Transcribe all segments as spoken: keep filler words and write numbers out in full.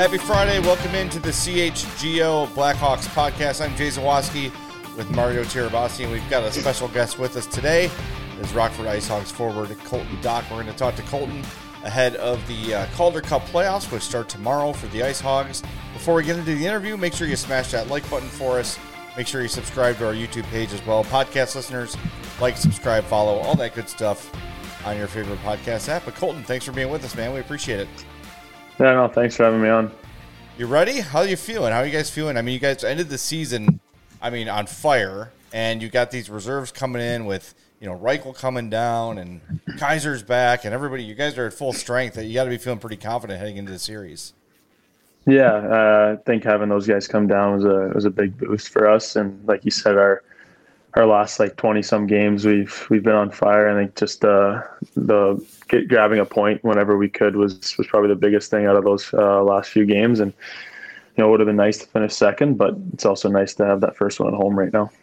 Happy Friday. Welcome into the C H G O Blackhawks podcast. I'm Jay Zawaski with Mario Tirabassi, and we've got a special guest with us today. Is Rockford IceHogs forward Colton Dach. We're going to talk to Colton ahead of the uh, Calder Cup playoffs, which start tomorrow for the IceHogs. Before we get into the interview, make sure you smash that like button for us. Make sure you subscribe to our YouTube page as well. Podcast listeners, like, subscribe, follow, all that good stuff on your favorite podcast app. But Colton, thanks for being with us, man. We appreciate it. Yeah, no, thanks for having me on. You ready? How are you feeling? How are you guys feeling? I mean, you guys ended the season, I mean, on fire, and you got these reserves coming in with, you know, Reichel coming down and Kaiser's back, and everybody, you guys are at full strength. You got to be feeling pretty confident heading into the series. Yeah, uh, I think having those guys come down was a was a big boost for us, and like you said, our our last like twenty some games, we've we've been on fire. I think just uh, the get, grabbing a point whenever we could was was probably the biggest thing out of those uh, last few games, and you know, it would have been nice to finish second, but it's also nice to have that first one at home right now.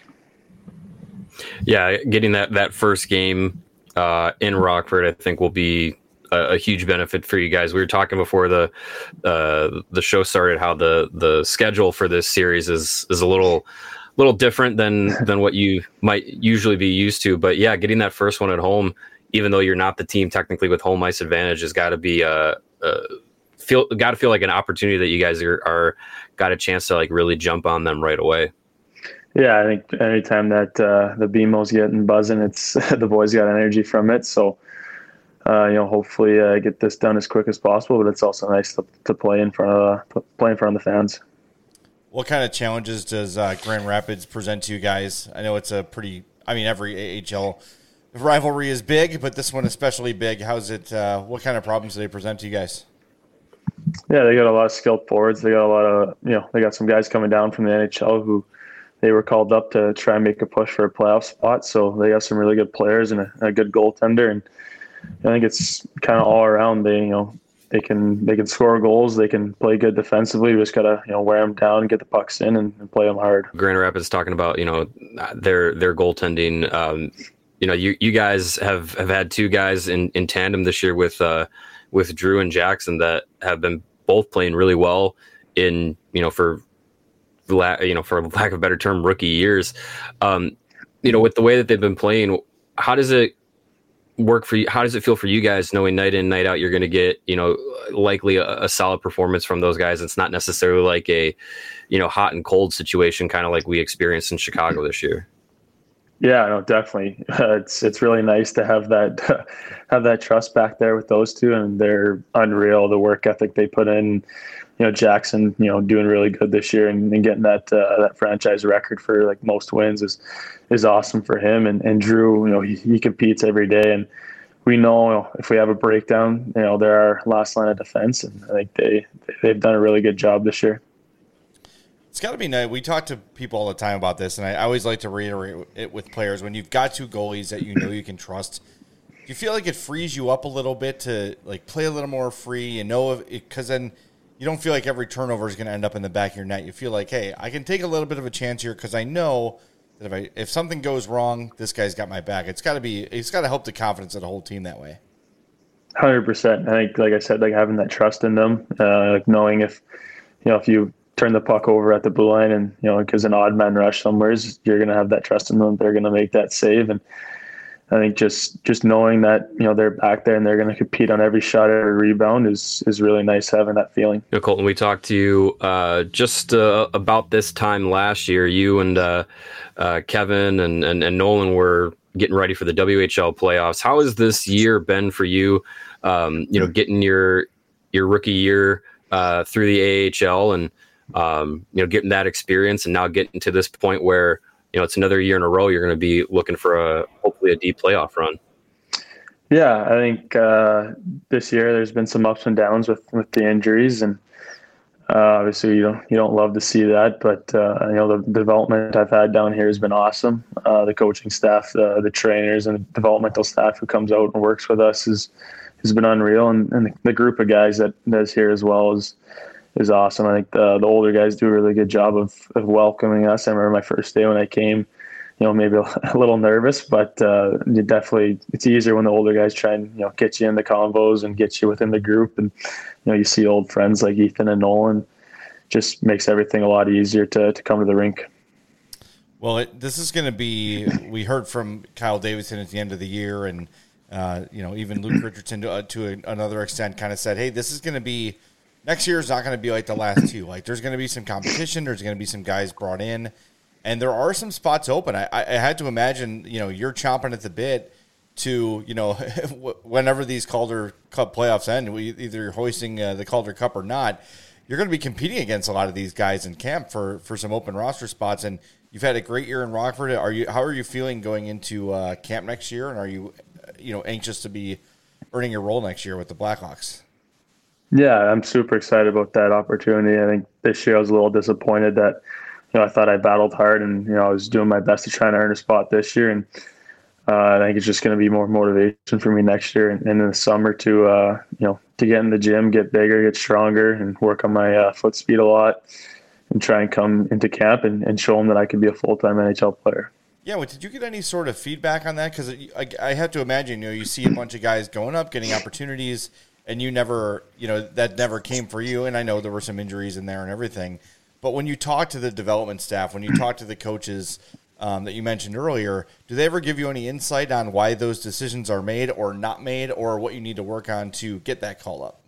Yeah, getting that that first game uh, in Rockford, I think, will be a, a huge benefit for you guys. We were talking before the uh, the show started how the the schedule for this series is is a little little different than than what you might usually be used to. But yeah, getting that first one at home, even though you're not the team technically with home ice advantage, has got to be uh, uh, feel got to feel like an opportunity that you guys are, are got a chance to like really jump on them right away. Yeah, I think anytime that uh, the B M O's getting buzzing, it's the boys got energy from it. So, uh, you know, hopefully uh, get this done as quick as possible. But it's also nice to, to play in front of uh, play in front of the fans. What kind of challenges does uh, Grand Rapids present to you guys? I know it's a pretty. I mean, every A H L rivalry is big, but this one especially big. How's it? Uh, what kind of problems do they present to you guys? Yeah, they got a lot of skilled forwards. They got a lot of you know. They got some guys coming down from the N H L who. They were called up to try and make a push for a playoff spot, so they have some really good players and a, a good goaltender. And I think it's kind of all around. They, you know, they can they can score goals, they can play good defensively. We just gotta you know wear them down, get the pucks in, and, and play them hard. Grand Rapids talking about you know their their goaltending. Um, you know, you you guys have, have had two guys in, in tandem this year with uh, with Drew and Jackson that have been both playing really well in you know for. you know, for lack of a better term, rookie years. Um, you know, with the way that they've been playing, how does it work for you? How does it feel for you guys knowing night in, night out, you're going to get, you know, likely a, a solid performance from those guys? It's not necessarily like a, you know, hot and cold situation, kind of like we experienced in Chicago this year. Yeah, no, definitely. Uh, it's it's really nice to have that uh, have that trust back there with those two, and they're unreal. The work ethic they put in. You know, Jackson, you know, doing really good this year and, and getting that uh, that franchise record for like most wins is is awesome for him. And, and Drew, you know, he, he competes every day, and we know if we have a breakdown, you know, they're our last line of defense, and I think they they've done a really good job this year. It's got to be nice. We talk to people all the time about this, and I always like to reiterate it with players. When you've got two goalies that you know you can trust, do you feel like it frees you up a little bit to like play a little more free? You know, because then you don't feel like every turnover is going to end up in the back of your net. You feel like, hey, I can take a little bit of a chance here because I know that if I if something goes wrong, this guy's got my back. It's got to be. It's got to help the confidence of the whole team that way. one hundred percent. I think, like I said, like having that trust in them, uh, like knowing if you know if you turn the puck over at the blue line and you know because an odd man rush somewhere, you're going to have that trust in them. They're going to make that save, and I think just just knowing that you know they're back there and they're going to compete on every shot, every rebound is is really nice having that feeling. You know, Colton, we talked to you uh, just uh, about this time last year. You and uh, uh, Kevin and, and and Nolan were getting ready for the W H L playoffs. How has this year been for you? Um, you know, getting your your rookie year uh, through the A H L and um, you know getting that experience, and now getting to this point where you know, it's another year in a row you're going to be looking for a hopefully a deep playoff run. Yeah, I think uh, this year there's been some ups and downs with, with the injuries, and uh, obviously you don't you don't love to see that. But uh, you know, the development I've had down here has been awesome. Uh, the coaching staff, the, the trainers, and the developmental staff who comes out and works with us is has been unreal, and, and the group of guys that that's here as well is. is awesome. I think the, the older guys do a really good job of, of welcoming us. I remember my first day when I came, you know, maybe a little nervous, but uh, you definitely, it's easier when the older guys try and, you know, get you in the convos and get you within the group. And, you know, you see old friends like Ethan and Nolan, just makes everything a lot easier to, to come to the rink. Well, it, this is going to be, we heard from Kyle Davidson at the end of the year, and, uh, you know, even Luke Richardson to, uh, to a, another extent kind of said, hey, this is going to be, next year is not going to be like the last two. Like, there's going to be some competition. There's going to be some guys brought in, and there are some spots open. I, I had to imagine, you know, you're chomping at the bit to, you know, whenever these Calder Cup playoffs end, either you're hoisting uh, the Calder Cup or not, you're going to be competing against a lot of these guys in camp for, for some open roster spots. And you've had a great year in Rockford. Are you? How are you feeling going into uh, camp next year? And are you, you know, anxious to be earning your role next year with the Blackhawks? Yeah, I'm super excited about that opportunity. I think this year I was a little disappointed that, you know, I thought I battled hard and, you know, I was doing my best to try and earn a spot this year. And uh, I think it's just going to be more motivation for me next year and, and in the summer to, uh, you know, to get in the gym, get bigger, get stronger, and work on my uh, foot speed a lot, and try and come into camp and, and show them that I can be a full-time N H L player. Yeah, well, did you get any sort of feedback on that? Because I, I have to imagine, you know, you see a bunch of guys going up, getting opportunities, and you never, you know, that never came for you. And I know there were some injuries in there and everything. But when you talk to the development staff, when you talk to the coaches um, that you mentioned earlier, do they ever give you any insight on why those decisions are made or not made, or what you need to work on to get that call up?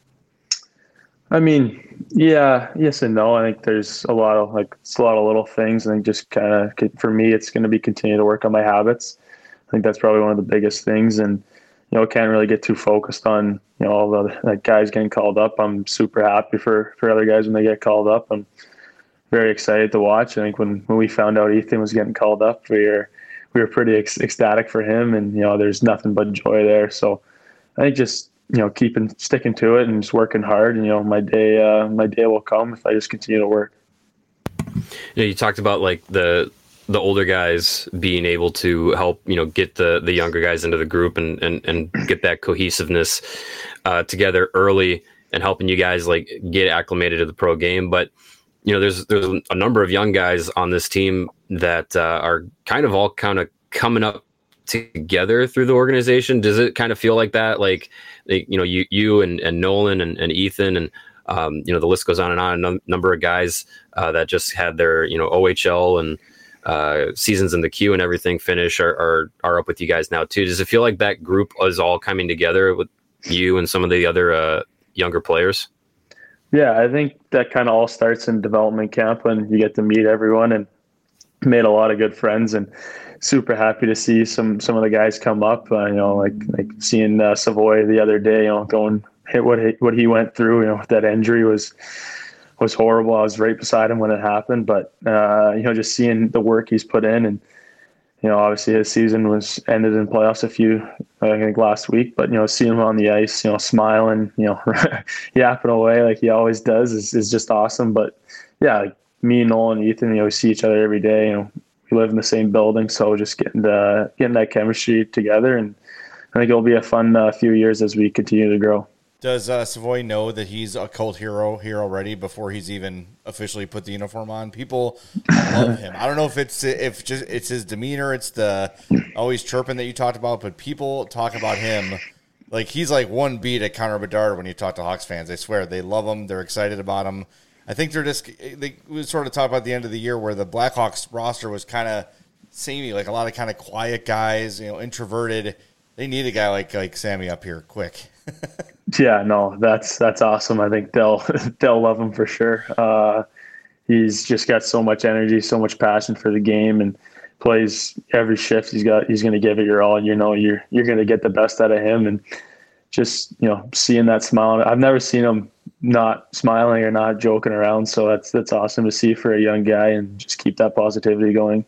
I mean, yeah, yes and no. I think there's a lot of like it's a lot of little things. I think just kind of for me, it's going to be continue to work on my habits. I think that's probably one of the biggest things, and you know, can't really get too focused on you know all the like guys getting called up. I'm super happy for for other guys when they get called up. I'm very excited to watch. I think when when we found out Ethan was getting called up, we were we were pretty ec- ecstatic for him, and you know, there's nothing but joy there. So I think just you know, keeping sticking to it and just working hard, and you know, my day, uh, my day will come if I just continue to work. You know, you talked about like the the older guys being able to help, you know, get the the younger guys into the group and and and get that cohesiveness uh, together early and helping you guys like get acclimated to the pro game. But you know, there's there's a number of young guys on this team that uh, are kind of all kind of coming up together through the organization. Does it kind of feel like that? Like, you know, you you and, and Nolan and, and Ethan and um, you know, the list goes on and on. A number of guys uh, that just had their, you know, O H L and uh, seasons in the queue and everything finish are, are are up with you guys now too. Does it feel like that group is all coming together with you and some of the other uh, younger players? Yeah, I think that kind of all starts in development camp when you get to meet everyone, and made a lot of good friends, and super happy to see some some of the guys come up. Uh, you know, like like seeing uh, Savoy the other day. You know, going hit what he, what he went through. You know, that injury was was horrible. I was right beside him when it happened, but uh, you know, just seeing the work he's put in, and you know, obviously his season was ended in playoffs a few, I think last week. But you know, seeing him on the ice, you know, smiling, you know, yapping away like he always does is is just awesome. But yeah, like me, Nolan, and Ethan, you know, we see each other every day. You know, we live in the same building, so just getting to, getting that chemistry together, and I think it'll be a fun uh, few years as we continue to grow. Does uh, Savoy know that he's a cult hero here already before he's even officially put the uniform on? People love him. I don't know if it's if just it's his demeanor, it's the always chirping that you talked about, but people talk about him like he's like one beat at Connor Bedard when you talk to Hawks fans. I swear they love him. They're excited about him. I think they're just they we sort of talked about the end of the year where the Blackhawks roster was kind of samey, like a lot of kind of quiet guys, you know, introverted. They need a guy like like Sammy up here quick. Yeah, no, that's that's awesome. I think they'll they'll love him for sure. Uh, he's just got so much energy, so much passion for the game, and plays every shift. He's got he's going to give it your all. You know, you're you're going to get the best out of him, and just you know, seeing that smile. I've never seen him not smiling or not joking around. So that's that's awesome to see for a young guy, and just keep that positivity going.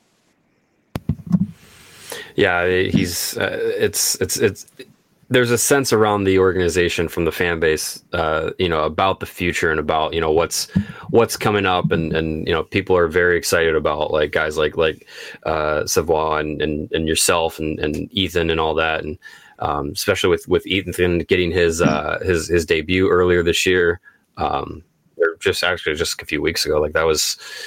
Yeah, he's uh, it's it's it's. There's a sense around the organization from the fan base, uh, you know, about the future and about, you know, what's what's coming up, and, and you know, people are very excited about like guys like like uh, Savoy and, and and yourself and, and Ethan and all that, and um, especially with with Ethan getting his uh, his his debut earlier this year, um, or just actually just a few weeks ago. Like that was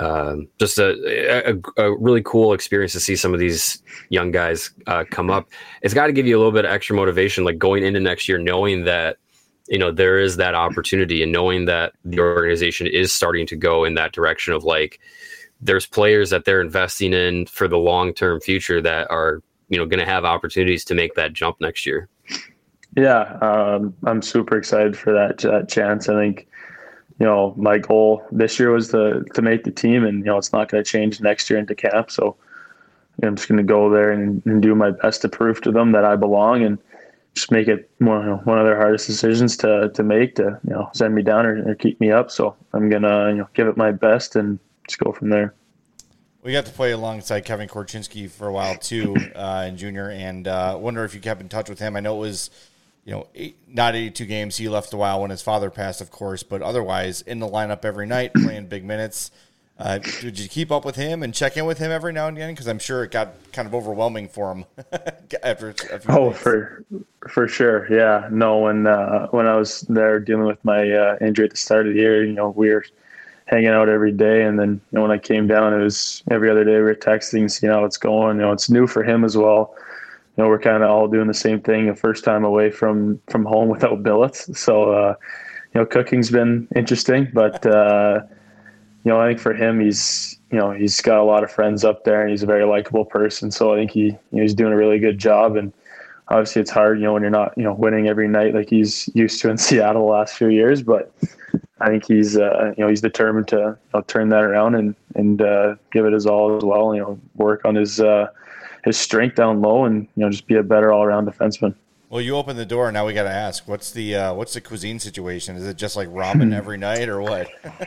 Um, just a, a, a really cool experience to see some of these young guys uh, come up. It's got to give you a little bit of extra motivation, like going into next year, knowing that, you know, there is that opportunity and knowing that the organization is starting to go in that direction of like, there's players that they're investing in for the long-term future that are, you know, going to have opportunities to make that jump next year. Yeah. Um, I'm super excited for that, that chance. I think, you know, my goal this year was to to make the team, and, you know, it's not going to change next year into camp. So you know, I'm just going to go there and, and do my best to prove to them that I belong, and just make it one, you know, one of their hardest decisions to to make to, you know, send me down or, or keep me up. So I'm going to, you know, give it my best and just go from there. We got to play alongside Kevin Korchinski for a while too, uh, in junior, and uh, wonder if you kept in touch with him. I know it was, you know, eight, not eighty-two games. He left a while when his father passed, of course, but otherwise in the lineup every night, playing big minutes. Uh, did you keep up with him and check in with him every now and again? Because I'm sure it got kind of overwhelming for him after a few Oh, days. for for sure, yeah. No, when uh, when I was there dealing with my uh, injury at the start of the year, you know, we were hanging out every day, and then, you know, when I came down, it was every other day we were texting, seeing how it's going. You know, it's new for him as well. You know, we're kind of all doing the same thing, the first time away from, from home without billets. So, uh, you know, cooking's been interesting, but, uh, you know, I think for him, he's, you know, he's got a lot of friends up there, and he's a very likable person. So I think he, you know, he's doing a really good job. And obviously it's hard, you know, when you're not, you know, winning every night like he's used to in Seattle the last few years, but I think he's, uh, you know, he's determined to, you know, turn that around and, and, uh, give it his all as well, you know, work on his, uh, his strength down low, and, you know, just be a better all-around defenseman. Well, you opened the door. Now we got to ask, what's the uh, what's the cuisine situation? Is it just like ramen every night, or what?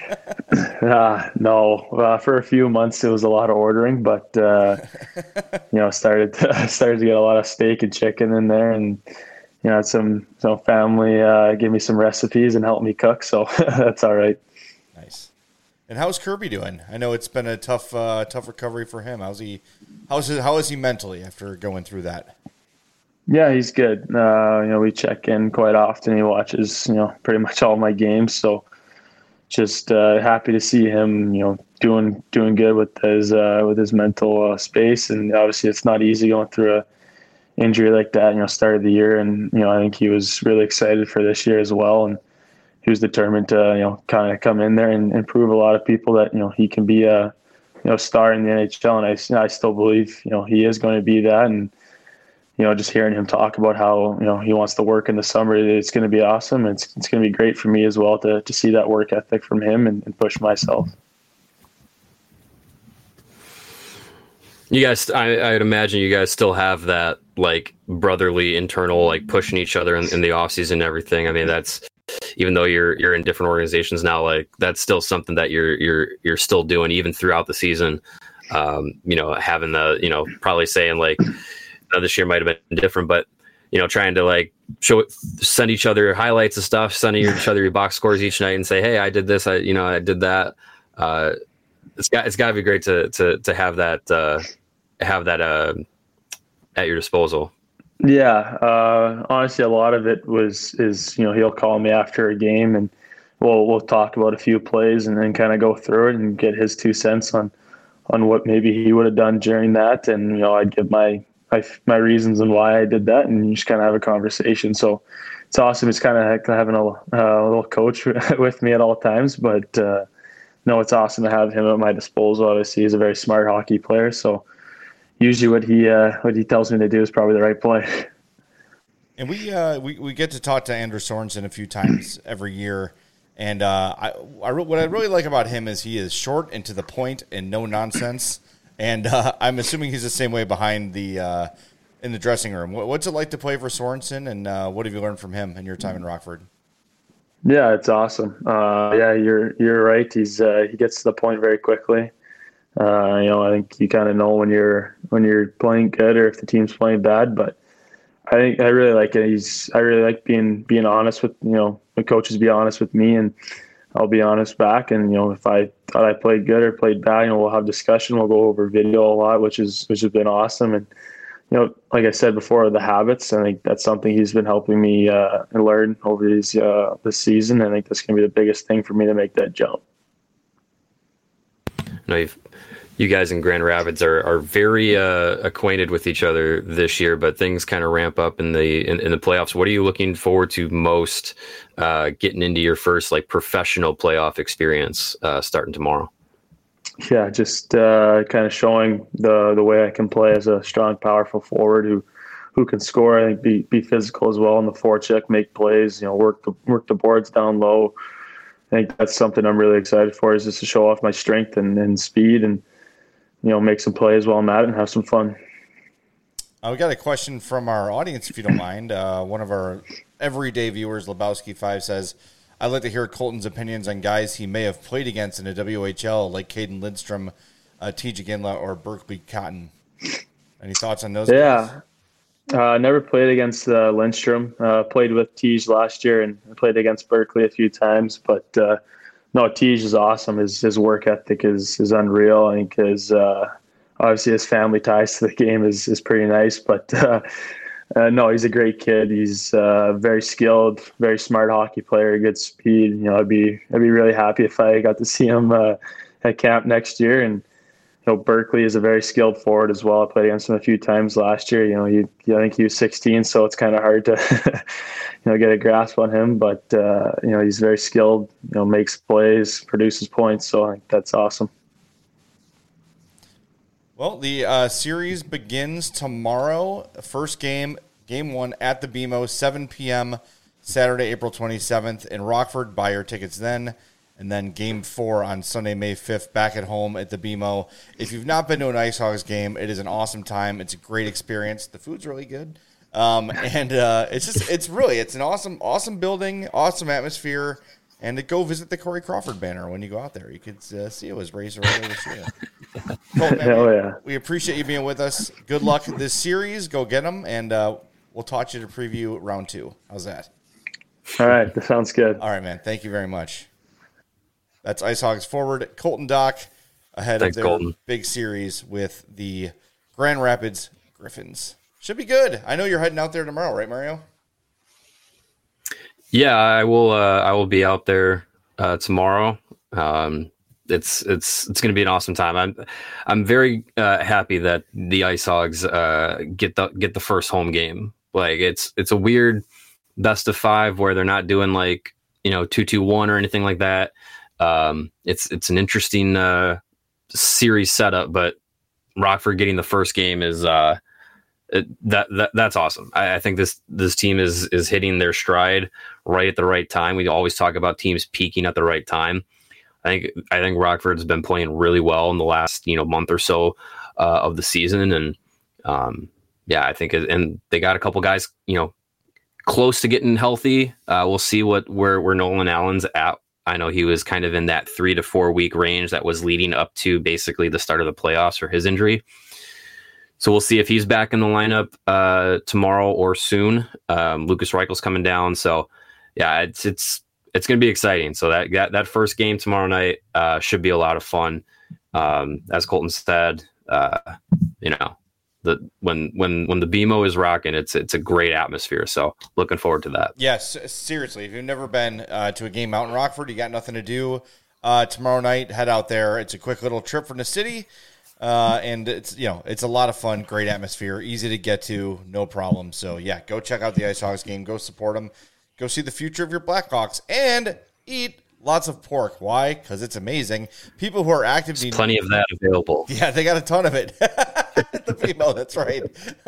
uh, no, uh, for a few months it was a lot of ordering, but uh, you know, started to, started to get a lot of steak and chicken in there, and, you know, some some family uh, gave me some recipes and helped me cook, so that's all right. Nice. And how's Kirby doing? I know it's been a tough uh, tough recovery for him. How's he? How's his, how is he mentally after going through that? Yeah, he's good. Uh, you know, we check in quite often. He watches, you know, pretty much all my games. So just uh, happy to see him, you know, doing doing good with his uh, with his mental uh, space. And obviously, it's not easy going through a injury like that. You know, start of the year, and, you know, I think he was really excited for this year as well. And he was determined to, you know, kind of come in there and, and prove a lot of people that, you know, he can be a, you know, star in the N H L. And I, I still believe, you know, he is going to be that. And, you know, just hearing him talk about how, you know, he wants to work in the summer, it's going to be awesome. It's it's going to be great for me as well to to see that work ethic from him and, and push myself. You guys, I, I'd imagine you guys still have that, like, brotherly internal, like, pushing each other in, in the offseason and everything. I mean, that's, even though you're you're in different organizations now, like, that's still something that you're you're you're still doing even throughout the season. Um, you know, having the, you know, probably saying like, uh, this year might have been different, but, you know, trying to like show it, send each other highlights of stuff, send each other your box scores each night, and say, hey, I did this, I you know, I did that. Uh, it's got it's got to be great to to to have that uh, have that uh, at your disposal. Yeah, uh, honestly, a lot of it was is, you know, he'll call me after a game, and we'll we'll talk about a few plays and then kind of go through it and get his two cents on on what maybe he would have done during that, and, you know, I'd give my my, my reasons and why I did that, and you just kind of have a conversation. So it's awesome. It's kind of having a, a little coach with me at all times, but uh, no, it's awesome to have him at my disposal. Obviously, he's a very smart hockey player, so usually what he uh, what he tells me to do is probably the right play. And we uh, we we get to talk to Andrew Sorensen a few times every year, and uh, I, I what I really like about him is he is short and to the point and no nonsense. And uh, I'm assuming he's the same way behind the uh, in the dressing room. What's it like to play for Sorensen, and uh, what have you learned from him in your time in Rockford? Yeah, it's awesome. Uh, yeah, you're you're right. He's uh, he gets to the point very quickly. Uh, you know, I think you kind of know when you're when you're playing good or if the team's playing bad. But I think I really like it. He's I really like being being honest with, you know, the coaches be honest with me, and I'll be honest back. And, you know, if I thought I played good or played bad, you know, we'll have discussion. We'll go over video a lot, which is which has been awesome. And, you know, like I said before, the habits, I think that's something he's been helping me uh, learn over these uh, this season. I think that's going to be the biggest thing for me to make that jump. know, you've, you guys in Grand Rapids are are very uh, acquainted with each other this year, but things kind of ramp up in the in, in the playoffs. What are you looking forward to most uh, getting into your first like professional playoff experience uh, starting tomorrow? Yeah, just uh, kind of showing the the way I can play as a strong, powerful forward who who can score. I think be be physical as well in the forecheck, make plays. You know, work the work the boards down low. I think that's something I'm really excited for, is just to show off my strength and, and speed, and you know, make some plays while I'm at it and have some fun. Uh, we got a question from our audience, if you don't mind. Uh, one of our everyday viewers, Lebowski five, says, I'd like to hear Colton's opinions on guys he may have played against in the W H L, like Caden Lindstrom, uh, T J Ginla, or Berkeley Cotton. Any thoughts on those yeah. guys? I uh, never played against uh, Lindstrom. Uh, played with Tej last year, and played against Berkeley a few times. But uh, no, Tej is awesome. His his work ethic is is unreal. I think his uh, obviously his family ties to the game is is pretty nice. But uh, uh, no, he's a great kid. He's uh, very skilled, very smart hockey player, good speed. You know, I'd be I'd be really happy if I got to see him uh, at camp next year. And you know, Berkeley is a very skilled forward as well. I played against him a few times last year. You know, he, I think he was sixteen, so it's kind of hard to, you know, get a grasp on him. But uh, you know, he's very skilled. You know, makes plays, produces points. So I think that's awesome. Well, the uh, series begins tomorrow. First game, game one at the B M O, seven p.m. Saturday, April twenty-seventh in Rockford. Buy your tickets then. And then game four on Sunday, May fifth, back at home at the B M O. If you've not been to an Ice Hogs game, it is an awesome time. It's a great experience. The food's really good. Um, and uh, it's just, it's really, it's an awesome, awesome building, awesome atmosphere. And to go visit the Corey Crawford banner when you go out there. You could uh, see it was raised right over the Cool, Hell yeah. We appreciate you being with us. Good luck this series. Go get them. And uh, we'll talk to you to preview round two. How's that? All right. That sounds good. All right, man. Thank you very much. That's Ice Hogs forward Colton Dock ahead Thanks, of their Colton. big series with the Grand Rapids Griffins. Should be good. I know you're heading out there tomorrow, right, Mario? Yeah, I will. Uh, I will be out there uh, tomorrow. Um, it's it's it's going to be an awesome time. I'm I'm very uh, happy that the Ice Hogs uh, get the get the first home game. Like it's it's a weird best of five where they're not doing like you know two two one or anything like that. Um, it's it's an interesting uh, series setup, but Rockford getting the first game is uh, it, that that that's awesome. I, I think this this team is is hitting their stride right at the right time. We always talk about teams peaking at the right time. I think I think Rockford's been playing really well in the last you know month or so uh, of the season, and um, yeah, I think it, and they got a couple guys you know close to getting healthy. Uh, we'll see what where where Nolan Allen's at. I know he was kind of in that three to four week range that was leading up to basically the start of the playoffs for his injury. So we'll see if he's back in the lineup uh, tomorrow or soon. Um, Lucas Reichel's coming down. So yeah, it's, it's, it's going to be exciting. So that, that, that first game tomorrow night uh, should be a lot of fun. Um, as Colton said, uh, you know, the, when, when, when the B M O is rocking, it's, it's a great atmosphere. So looking forward to that. Yes, seriously. If you've never been uh, to a game out in Rockford, you got nothing to do uh, tomorrow night, head out there. It's a quick little trip from the city. Uh, and it's, you know, it's a lot of fun, great atmosphere, easy to get to, no problem. So yeah, go check out the Ice Hogs game, go support them, go see the future of your Blackhawks, and eat lots of pork. Why? Because it's amazing. People who are active There's need plenty of that available. Yeah, they got a ton of it. The female, that's right.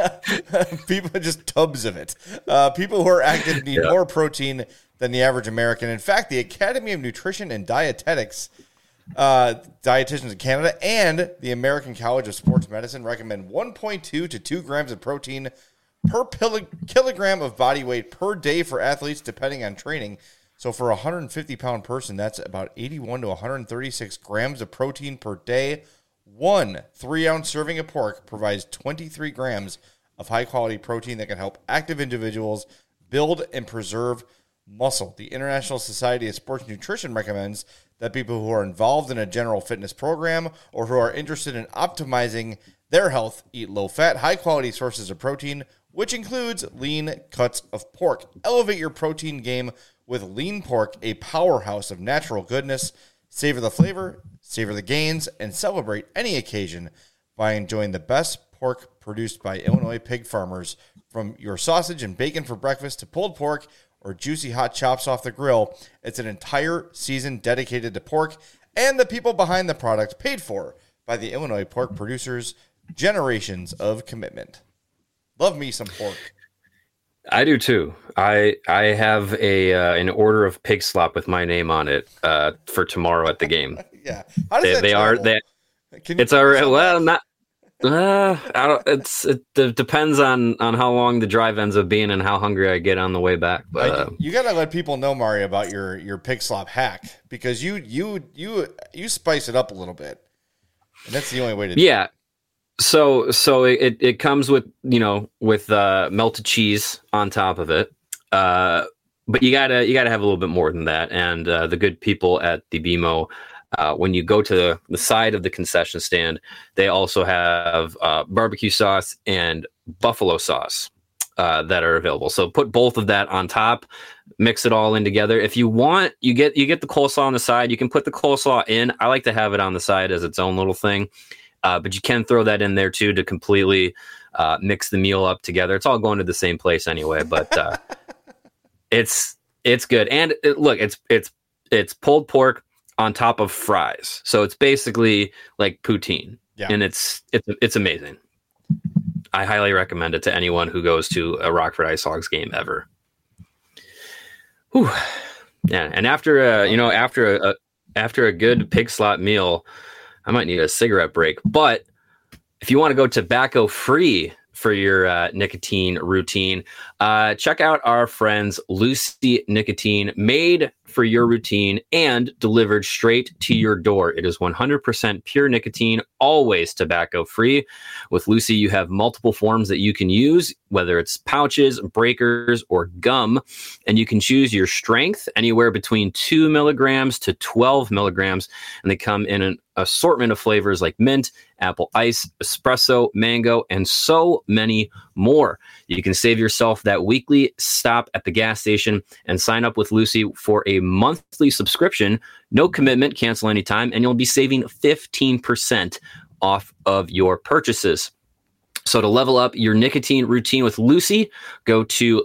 People just tubs of it. Uh, people who are active need yeah. more protein than the average American. In fact, the Academy of Nutrition and Dietetics, uh, dietitians in Canada, and the American College of Sports Medicine recommend one point two to two grams of protein per pil- kilogram of body weight per day for athletes, depending on training. So for a one hundred fifty pound person, that's about eighty-one to one hundred thirty-six grams of protein per day. One three-ounce serving of pork provides twenty-three grams of high-quality protein that can help active individuals build and preserve muscle. The International Society of Sports Nutrition recommends that people who are involved in a general fitness program or who are interested in optimizing their health eat low-fat, high-quality sources of protein, which includes lean cuts of pork. Elevate your protein game with lean pork, a powerhouse of natural goodness. Savor the flavor, savor the gains, and celebrate any occasion by enjoying the best pork produced by Illinois pig farmers. From your sausage and bacon for breakfast to pulled pork or juicy hot chops off the grill, it's an entire season dedicated to pork and the people behind the product, paid for by the Illinois pork producers. Generations of commitment. Love me some pork. I do too. I I have a uh, an order of pig slop with my name on it uh, for tomorrow at the game. Yeah, how does they, that they are they. Can you it's all right. Well, not. Uh, I don't. It's it, it depends on on how long the drive ends up being and how hungry I get on the way back. But uh, you got to let people know, Mario, about your your pig slop hack, because you you you you spice it up a little bit, and that's the only way to do yeah. it. So so it, it comes with, you know, with uh, melted cheese on top of it, uh, but you gotta you gotta have a little bit more than that. And uh, the good people at the B M O, uh, when you go to the, the side of the concession stand, they also have uh, barbecue sauce and buffalo sauce uh, that are available. So put both of that on top, mix it all in together. If you want, you get you get the coleslaw on the side. You can put the coleslaw in. I like to have it on the side as its own little thing. Uh, but you can throw that in there too to completely uh, mix the meal up together. It's all going to the same place anyway, but uh, it's it's good. And it, look, it's it's it's pulled pork on top of fries, so it's basically like poutine, Yeah. and it's it's it's amazing. I highly recommend it to anyone who goes to a Rockford Ice Hogs game ever. Whew. Yeah, and after a, you know after a, a after a good pig slot meal, I might need a cigarette break. But if you want to go tobacco free for your uh, nicotine routine, uh, check out our friends Lucy Nicotine, made for your routine and delivered straight to your door. It is one hundred percent pure nicotine, always tobacco free. With Lucy, you have multiple forms that you can use, whether it's pouches, breakers, or gum, and you can choose your strength anywhere between two milligrams to twelve milligrams, and they come in an assortment of flavors like mint, apple ice, espresso, mango, and so many more. You can save yourself that weekly stop at the gas station and sign up with Lucy for a monthly subscription. No commitment, cancel anytime, and you'll be saving fifteen percent off of your purchases. So to level up your nicotine routine with Lucy, go to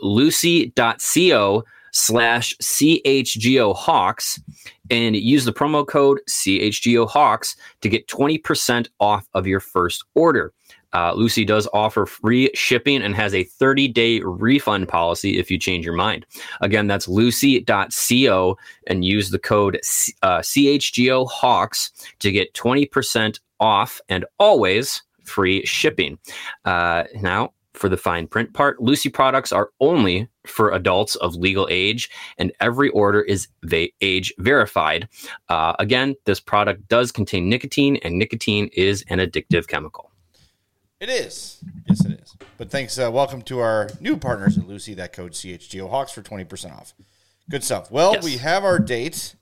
lucy.co slash CHGO Hawks and use the promo code C H G O Hawks to get twenty percent off of your first order. Uh, Lucy does offer free shipping and has a thirty-day refund policy if you change your mind. Again, that's lucy.co and use the code uh, C H G O Hawks to get twenty percent off and always free shipping. Uh, now, for the fine print part, Lucy products are only for adults of legal age, and every order is va- age verified. Uh, again, this product does contain nicotine, and nicotine is an addictive chemical. It is. Yes, it is. But thanks. Uh, welcome to our new partners at Lucy. That code C H G O Hawks for twenty percent off. Good stuff. Well, Yes. we have our date.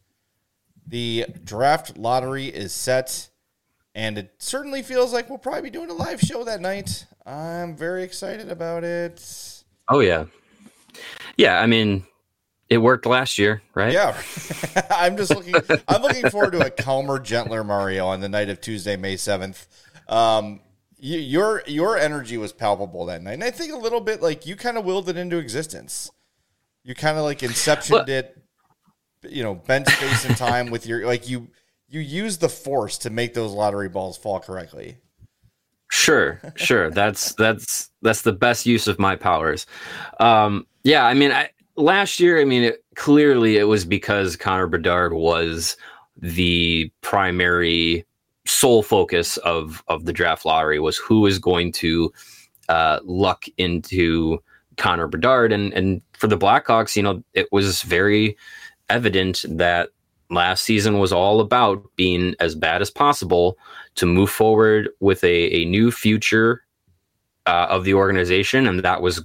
The draft lottery is set, and it certainly feels like we'll probably be doing a live show that night. I'm very excited about it. Oh, yeah. Yeah, I mean, it worked last year, right? Yeah. I'm just looking I'm looking forward to a calmer, gentler Mario on the night of Tuesday, May seventh. Um You, your your energy was palpable that night, and I think a little bit like you kind of willed it into existence. You kind of like inceptioned it, you know, bent space and time with your like you you used the force to make those lottery balls fall correctly. Sure, sure. That's that's that's the best use of my powers. Um, yeah, I mean, I, last year, I mean, it, clearly it was because Connor Bedard was the primary sole focus of of the draft lottery, was who is going to uh, luck into Connor Bedard, and and for the Blackhawks, you know, it was very evident that last season was all about being as bad as possible to move forward with a, a new future uh, of the organization, and that was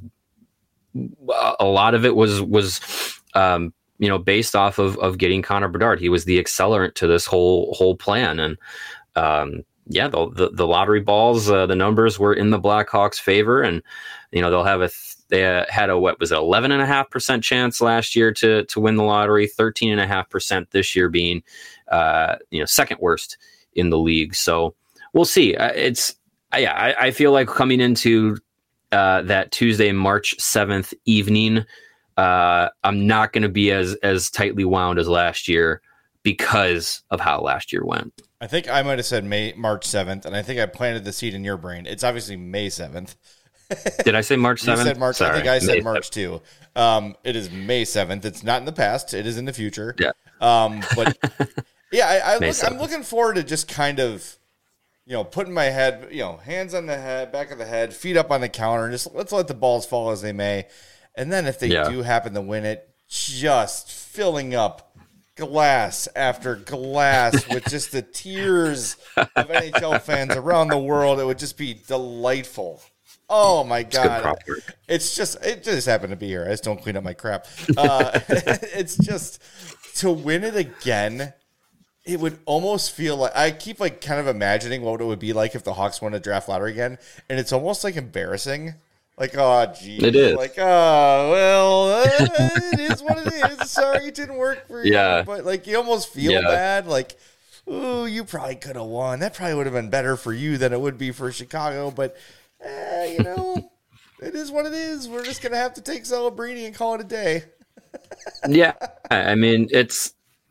a lot of it was was um, you know based off of of getting Connor Bedard. He was the accelerant to this whole whole plan, and Um, yeah, the, the the lottery balls, uh, the numbers were in the Blackhawks' favor, and you know they'll have a th- they uh, had a, what was it, eleven and a half percent chance last year to, to win the lottery, thirteen and a half percent this year being, uh, you know, second worst in the league. So we'll see. Uh, it's, uh, yeah, I, I feel like coming into uh, that Tuesday, March seventh evening, uh, I'm not going to be as, as tightly wound as last year because of how last year went. I think I might have said May March seventh, and I think I planted the seed in your brain. It's obviously May seventh. Did I say March seventh? You said March. Sorry, I think I said May March too. Um, it is May seventh. It's not in the past. It is in the future. Yeah. Um, but yeah, I, I look, seventh. I'm looking forward to just kind of, you know, putting my head, you know, hands on the head, back of the head, feet up on the counter, and just let's let the balls fall as they may. And then if they Yeah. do happen to win it, just filling up glass after glass with just the tears of N H L fans around the world. It would just be delightful. Oh my God. It's just, it just happened to be here. I just don't clean up my crap. Uh, it's just to win it again. It would almost feel like, I keep like kind of imagining what it would be like if the Hawks won a draft lottery again. And it's almost like embarrassing. Like, oh, geez. It is. Like, oh, well, uh, it is what it is. Sorry it didn't work for you. Yeah. But, like, you almost feel Yeah. bad. Like, ooh, you probably could have won. That probably would have been better for you than it would be for Chicago. But, eh, you know, it is what it is. We're just going to have to take Celebrini and call it a day. Yeah. I mean, it's,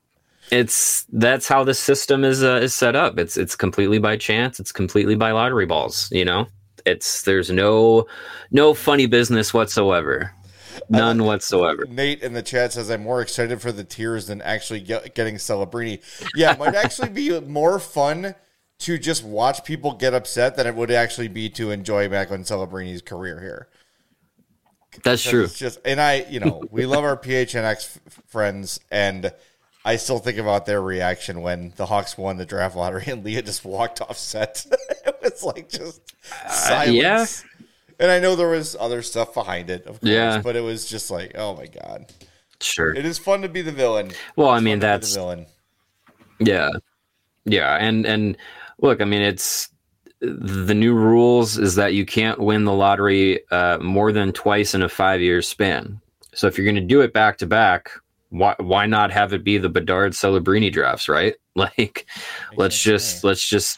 it's, that's how the system is, uh, is set up. It's, it's completely by chance. It's completely by lottery balls, you know? It's there's no no funny business whatsoever, none uh, whatsoever. Nate in the chat says I'm more excited for the tears than actually get, getting Celebrini. Yeah, it might actually be more fun to just watch people get upset than it would actually be to enjoy Macklin Celebrini's career here. That's true. It's just, and I, you know, we love our P H N X f- friends, and I still think about their reaction when the Hawks won the draft lottery and Leah just walked off set. It was like just silence. Uh, yeah. And I know there was other stuff behind it, of course, yeah. but it was just like, oh my God. Sure. It is fun to be the villain. Well, it's I mean, that's the villain. Yeah. Yeah. And, and look, I mean, it's the new rules is that you can't win the lottery uh, more than twice in a five year span. So if you're going to do it back to back, why why not have it be the Bedard Celebrini drafts, right? Like, exactly. let's just let's just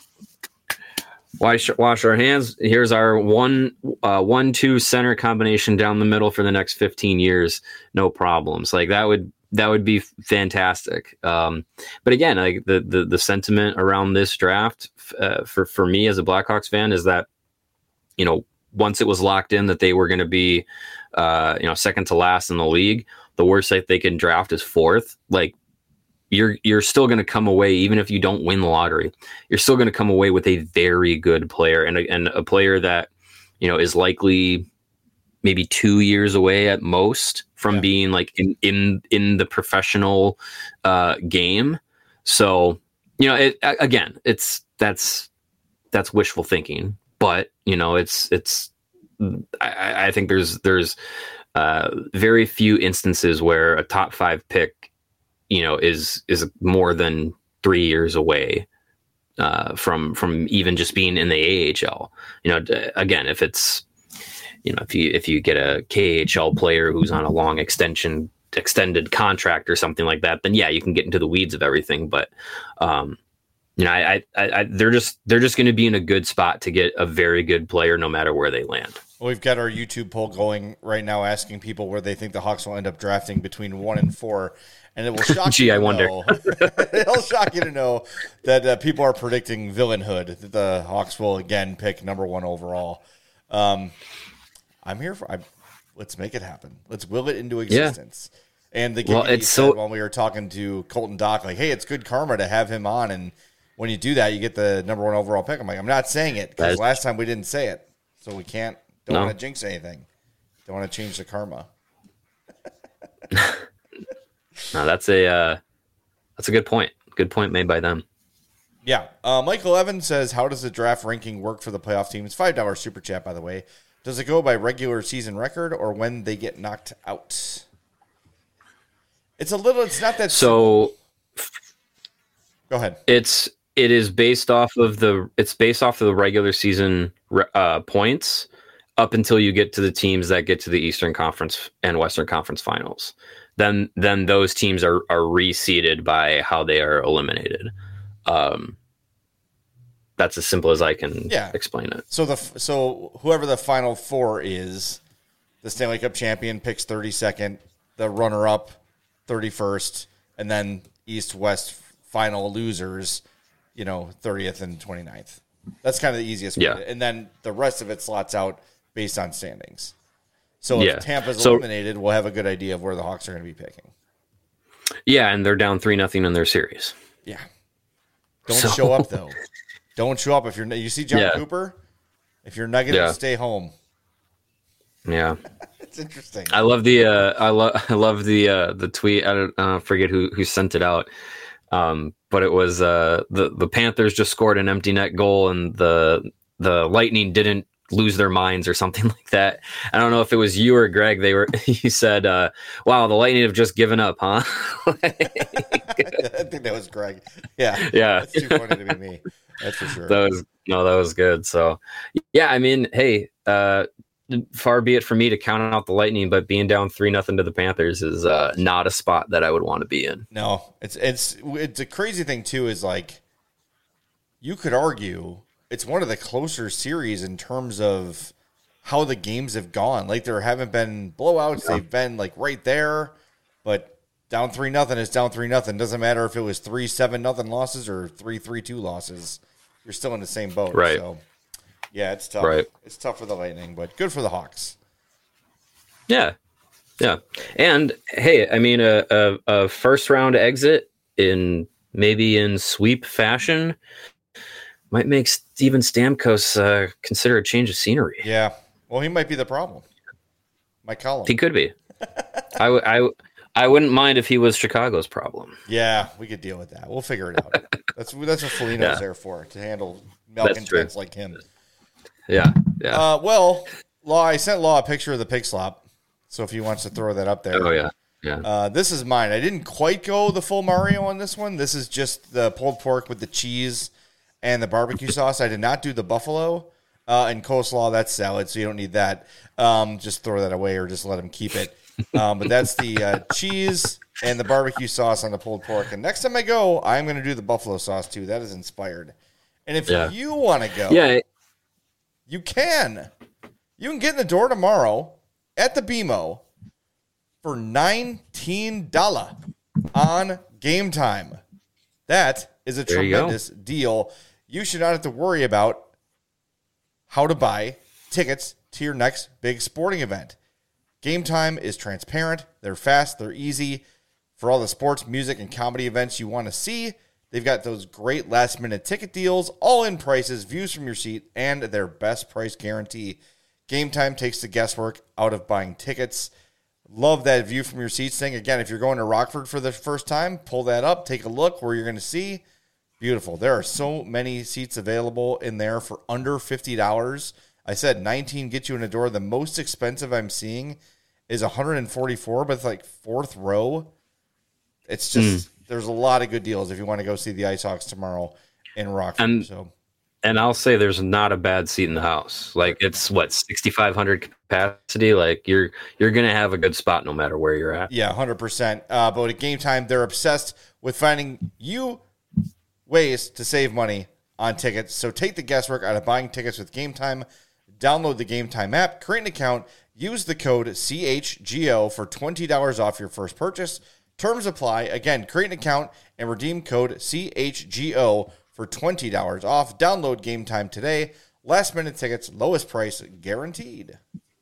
wash wash our hands. Here's our one uh, one two center combination down the middle for the next fifteen years, no problems. Like that would that would be fantastic. Um, but again, like the the the sentiment around this draft uh, for for me as a Blackhawks fan is that, you know, once it was locked in that they were going to be uh, you know second to last in the league, the worst that they can draft is fourth. Like you're you're still going to come away, even if you don't win the lottery, you're still going to come away with a very good player and a, and a player that, you know, is likely maybe two years away at most from yeah. being like in in in the professional uh, game. So, you know, it again, it's that's that's wishful thinking, but you know, it's it's I, I think there's there's uh, very few instances where a top five pick, you know, is is more than three years away uh, from from even just being in the A H L. You know, again, if it's, you know, if you if you get a K H L player who's on a long extension extended contract or something like that, then yeah, you can get into the weeds of everything. But um, you know, I, I, I they're just they're just going to be in a good spot to get a very good player no matter where they land. Well, we've got our YouTube poll going right now, asking people where they think the Hawks will end up drafting between one and four, and it will shock Gee, you. I to wonder. know, it'll shock you to know that uh, people are predicting villainhood. That the Hawks will again pick number one overall. Um, I'm here for. I, let's make it happen. Let's will it into existence. Yeah. And the game well, it's so when we were talking to Colton Dock, like, hey, it's good karma to have him on, and when you do that, you get the number one overall pick. I'm like, I'm not saying it because last time we didn't say it, so we can't. Don't no. want to jinx anything. Don't want to change the karma. No, that's a uh, that's a good point. Good point made by them. Yeah. Uh, Michael Evans says, how does the draft ranking work for the playoff teams? five dollars super chat, by the way. Does it go by regular season record or when they get knocked out? It's a little, it's not that So simple. Go ahead. It's, it is based off of the, it's based off of the regular season uh, points. up until you get to the teams that get to the Eastern Conference and Western Conference finals. Then then those teams are are reseeded by how they are eliminated. Um, that's as simple as I can yeah. explain it. So the so whoever the final four is, the Stanley Cup champion picks thirty-second, the runner-up thirty-first, and then East-West final losers, you know, thirtieth and twenty-ninth. That's kind of the easiest way. Yeah. And then the rest of it slots out based on standings. So if yeah. Tampa's so, eliminated, we'll have a good idea of where the Hawks are going to be picking. Yeah, and they're down three nothing in their series. Yeah. Don't so, show up though. Don't show up if you're. You see John yeah. Cooper. If you're negative, yeah. stay home. Yeah, it's interesting. I love the. Uh, I love. I love the. Uh, the tweet. I don't uh, forget who who sent it out. Um, but it was uh, the the Panthers just scored an empty net goal, and the the Lightning didn't lose their minds or something like that. I don't know if it was you or Greg. They were. He said, uh, "Wow, the Lightning have just given up, huh?" I think that was Greg. Yeah, yeah. That's too funny to be me. That's for sure. That was no, that was good. So, yeah, I mean, hey, uh, far be it from me to count out the Lightning, but being down three nothing to the Panthers is uh, not a spot that I would want to be in. No, it's it's it's a crazy thing too. Is like you could argue it's one of the closer series in terms of how the games have gone. Like there haven't been blowouts; yeah. They've been like right there, but down three nothing is down three nothing. Doesn't matter if it was three seven nothing losses or three three two losses. You're still in the same boat, right? So. Yeah, it's tough. Right. It's tough for the Lightning, but good for the Hawks. Yeah, yeah, and hey, I mean, a, a, a first round exit in maybe in sweep fashion might make Steven Stamkos uh, consider a change of scenery. Yeah, well, he might be the problem. Mike Collins. He could be. I, w- I, w- I wouldn't mind if he was Chicago's problem. Yeah, we could deal with that. We'll figure it out. that's that's what Foligno's yeah. there for, to handle malcontents like him. Yeah, yeah. Uh, well, Law, I sent Law a picture of the pig slop, so if he wants to throw that up there. Oh, yeah, yeah. Uh, this is mine. I didn't quite go the full Mario on this one. This is just the pulled pork with the cheese and the barbecue sauce. I did not do the buffalo. Uh, and coleslaw, that's salad, so you don't need that. Um, just throw that away or just let him keep it. Um, but that's the uh, cheese and the barbecue sauce on the pulled pork. And next time I go, I'm going to do the buffalo sauce, too. That is inspired. And if yeah. you want to go... Yeah. You can. You can get in the door tomorrow at the B M O for nineteen dollars on Game Time. That is a there tremendous you deal. You should not have to worry about how to buy tickets to your next big sporting event. Game Time is transparent. They're fast. They're easy. For all the sports, music, and comedy events you want to see, they've got those great last-minute ticket deals, all-in prices, views from your seat, and their best price guarantee. Game Time takes the guesswork out of buying tickets. Love that view from your seats thing. Again, if you're going to Rockford for the first time, pull that up, take a look where you're going to see. Beautiful. There are so many seats available in there for under fifty dollars. I said nineteen gets you in the door. The most expensive I'm seeing is one hundred forty-four, but it's like fourth row. It's just... Mm. There's a lot of good deals if you want to go see the Ice Hawks tomorrow in Rockford. And, so, and I'll say there's not a bad seat in the house. Like it's what sixty-five hundred capacity. Like you're you're gonna have a good spot no matter where you're at. Yeah, one hundred percent. Uh, but at Game Time, they're obsessed with finding you ways to save money on tickets. So take the guesswork out of buying tickets with Game Time. Download the Game Time app, create an account, use the code C H G O for twenty dollars off your first purchase. Terms apply. Again, create an account and redeem code C H G O for twenty dollars off. Download Game Time today. Last minute tickets, lowest price guaranteed.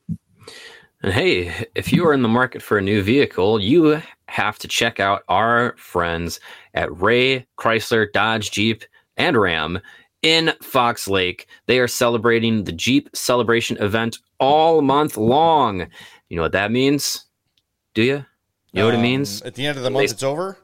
And hey, if you are in the market for a new vehicle, you have to check out our friends at Ray Chrysler, Dodge, Jeep, and Ram in Fox Lake. They are celebrating the Jeep Celebration event all month long. You know what that means? Do you? You know um, what it means? At the end of the month, it's over?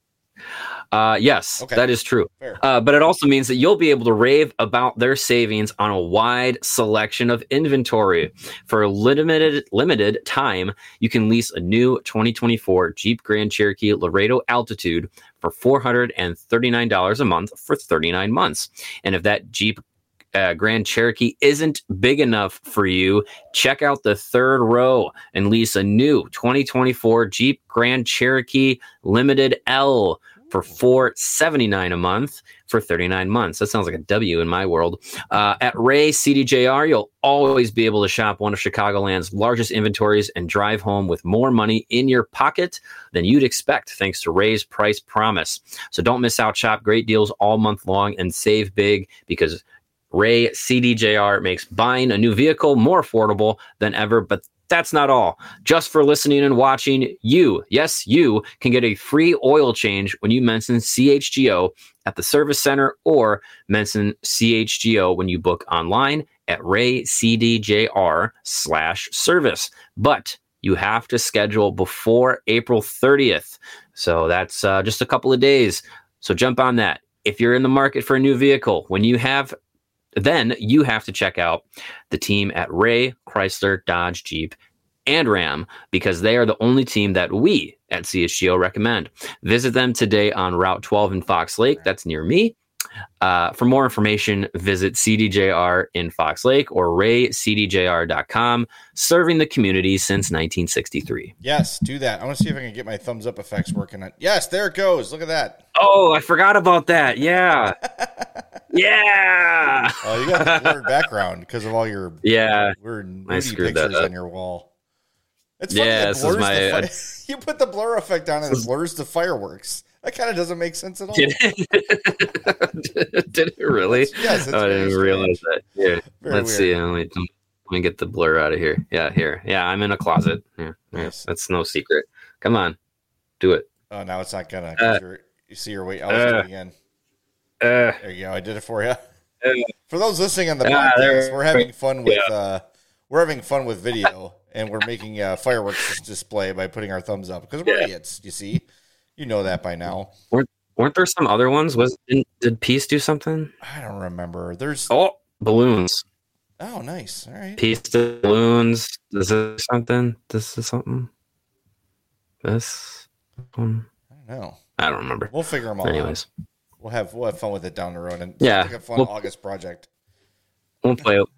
Uh, yes, okay. That is true. Uh, but it also means that you'll be able to rave about their savings on a wide selection of inventory. For a limited limited time, you can lease a new twenty twenty-four Jeep Grand Cherokee Laredo Altitude for four hundred thirty-nine dollars a month for thirty-nine months. And if that Jeep uh, Grand Cherokee isn't big enough for you, check out the third row and lease a new twenty twenty-four Jeep Grand Cherokee Limited L for four hundred seventy-nine dollars a month for thirty-nine months. That sounds like a W in my world. Uh, at Ray C D J R, you'll always be able to shop one of Chicagoland's largest inventories and drive home with more money in your pocket than you'd expect, thanks to Ray's Price Promise. So don't miss out. Shop great deals all month long and save big, because Ray C D J R makes buying a new vehicle more affordable than ever. But that's not all. Just for listening and watching, you, yes, you can get a free oil change when you mention C H G O at the service center, or mention C H G O when you book online at raycdjr slash service. But you have to schedule before April thirtieth. So that's uh, just a couple of days. So jump on that. If you're in the market for a new vehicle, when you have then you have to check out the team at Ray Chrysler, Dodge, Jeep, and Ram, because they are the only team that we at C H G O recommend. Visit them today on Route twelve in Fox Lake. That's near me. Uh, for more information, visit C D J R in Fox Lake or ray c d j r dot com, serving the community since nineteen sixty-three. Yes, do that. I want to see if I can get my thumbs up effects working. On. Yes, there it goes. Look at that. Oh, I forgot about that. Yeah. Yeah. Oh, you got the blurred background because of all your yeah weird nudie pictures on your wall. It's funny. Yeah, It this blurs is my. the fi- Uh, you put the blur effect on and it blurs the fireworks. That kind of doesn't make sense at all. Did it, did it really? It's, yes, it's oh, I very didn't realize that. Here, Very let's weird. see. Let me, let me get the blur out of here. Yeah, here. Yeah, I'm in a closet. Yeah, yeah, Nice. that's no secret. Come on, do it. Oh, now it's not gonna. 'Cause Uh, you're, you see your weight. I'll do uh, it again. Uh, There you go. I did it for you. uh, For those listening on the Ah, podcast, there- we're having fun with yeah. uh, we're having fun with video, and we're making a fireworks display by putting our thumbs up because we're Yeah. idiots. You see, you know that by now. weren't, weren't there some other ones? Was did, did Peace do something? I don't remember. There's oh, Oh, balloons. nice. All right. Peace did balloons. This is something. This is something. This one. I don't know. I don't remember. We'll figure them all out. Anyways, We'll have we'll have fun with it down the road, and Yeah. it's like a fun We'll- August project. we'll play it.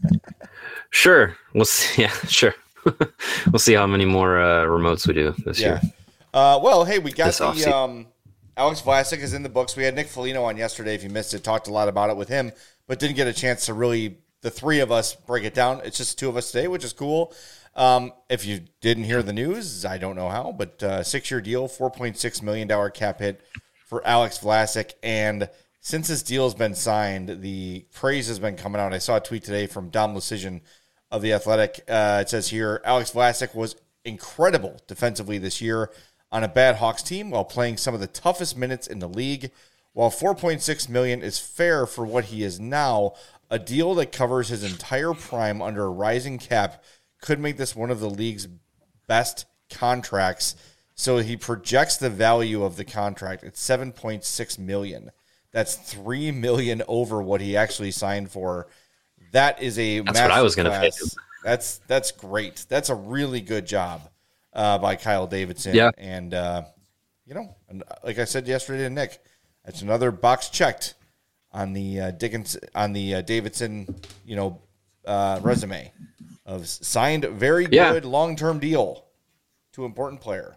Sure. We'll see. Yeah, sure. We'll see how many more uh, remotes we do this Yeah. year. Uh, well, hey, we got This the offseason. um, Alex Vlasic is in the books. We had Nick Foligno on yesterday. If you missed it, talked a lot about it with him, but didn't get a chance to really the three of us break it down. It's just two of us today, which is cool. Um, if you didn't hear the news, I don't know how, but uh, six-year deal, four point six million dollars cap hit for Alex Vlasic. And since this deal has been signed, the praise has been coming out. I saw a tweet today from Dom Lucian of The Athletic. Uh, it says here, Alex Vlasic was incredible defensively this year on a bad Hawks team while playing some of the toughest minutes in the league. While four point six million dollars is fair for what he is now, a deal that covers his entire prime under a rising cap could make this one of the league's best contracts. So he projects the value of the contract at seven point six million dollars. That's three million dollars over what he actually signed for. That is a That's what I was going gonna pay to him. That's that's great. That's a really good job uh, by Kyle Davidson. Yeah. And uh, you know, and like I said yesterday to Nick, that's another box checked on the uh, Dickens on the uh, Davidson, you know, uh, resume of signed very Yeah. good long term deal to important player.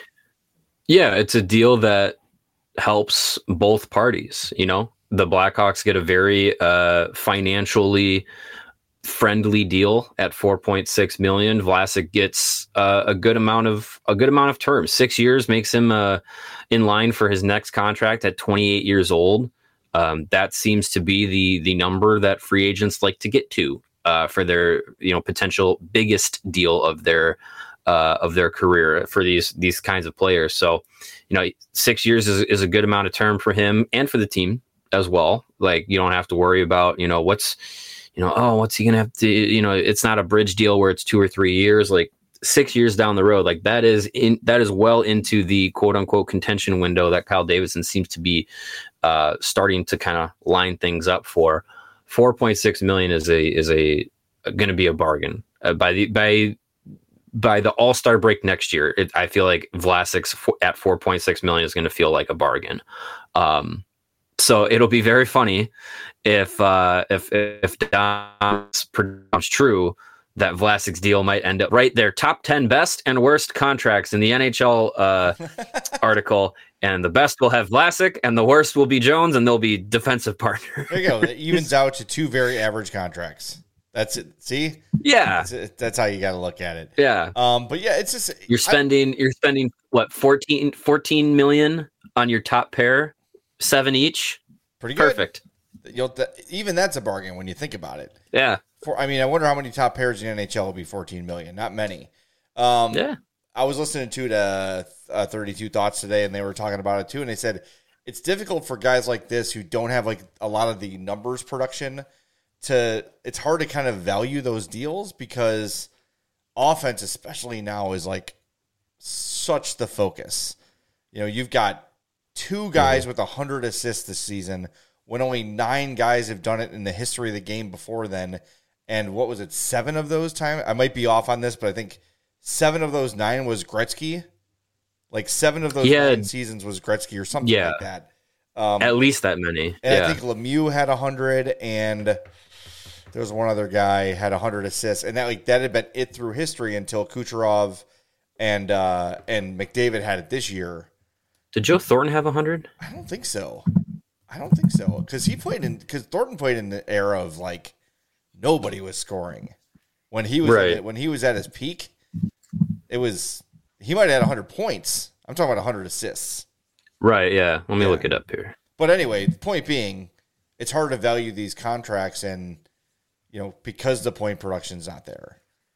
Yeah, it's a deal that helps both parties. You know, the Blackhawks get a very uh, financially friendly deal at four point six million. Vlasic gets uh, a good amount of a good amount of terms. Six years makes him uh, in line for his next contract at twenty-eight years old. Um, that seems to be the the number that free agents like to get to uh, for their you know potential biggest deal of their uh, of their career for these these kinds of players. So, you know, six years is, is a good amount of term for him and for the team as well. Like, you don't have to worry about, you know, what's, you know, oh, what's he going to have to, you know, it's not a bridge deal where it's two or three years, like six years down the road. Like that is in, that is well into the quote unquote contention window that Kyle Davidson seems to be uh, starting to kind of line things up for. four point six million is a, is a, going to be a bargain uh, by the, by, by the All-Star break next year. It, I feel like Vlasic's f- at four point six million is going to feel like a bargain. Um, so it'll be very funny if uh, if if Dom's prediction's true that Vlasic's deal might end up right there, top ten best and worst contracts in the N H L uh, article, and the best will have Vlasic, and the worst will be Jones, and they'll be defensive partner. There you go. It evens out to two very average contracts. That's it. See? Yeah, that's, that's how you got to look at it. Yeah. Um. But yeah, it's just you're spending I, you're spending what fourteen, fourteen million on your top pair, seven each. Pretty good. Perfect. You'll even that's a bargain when you think about it. Yeah. For, I mean, I wonder how many top pairs in the N H L will be fourteen million. Not many. Um, yeah. I was listening to the uh, thirty-two Thoughts today, and they were talking about it too. And they said it's difficult for guys like this who don't have like a lot of the numbers production to. It's hard to kind of value those deals because offense, especially now, is like such the focus. You know, you've got two guys mm-hmm. with one hundred assists this season when only nine guys have done it in the history of the game before then. And what was it? Seven of those times? I might be off on this, but I think seven of those nine was Gretzky. Like seven of those yeah. nine seasons was Gretzky or something yeah. like that. Um, At least that many. And yeah. I think Lemieux had one hundred, and there was one other guy had one hundred assists. And that like that had been it through history until Kucherov and uh, and McDavid had it this year. Did Joe Thornton have one hundred? I don't think so. I don't think so. Because he played in, because Thornton played in the era of like, nobody was scoring when he was right. at, when he was at his peak. It was he might have had one hundred points. I'm talking about one hundred assists. Right. Yeah. Let me yeah. look it up here. But anyway, the point being, it's hard to value these contracts, and you know because the point production's not there.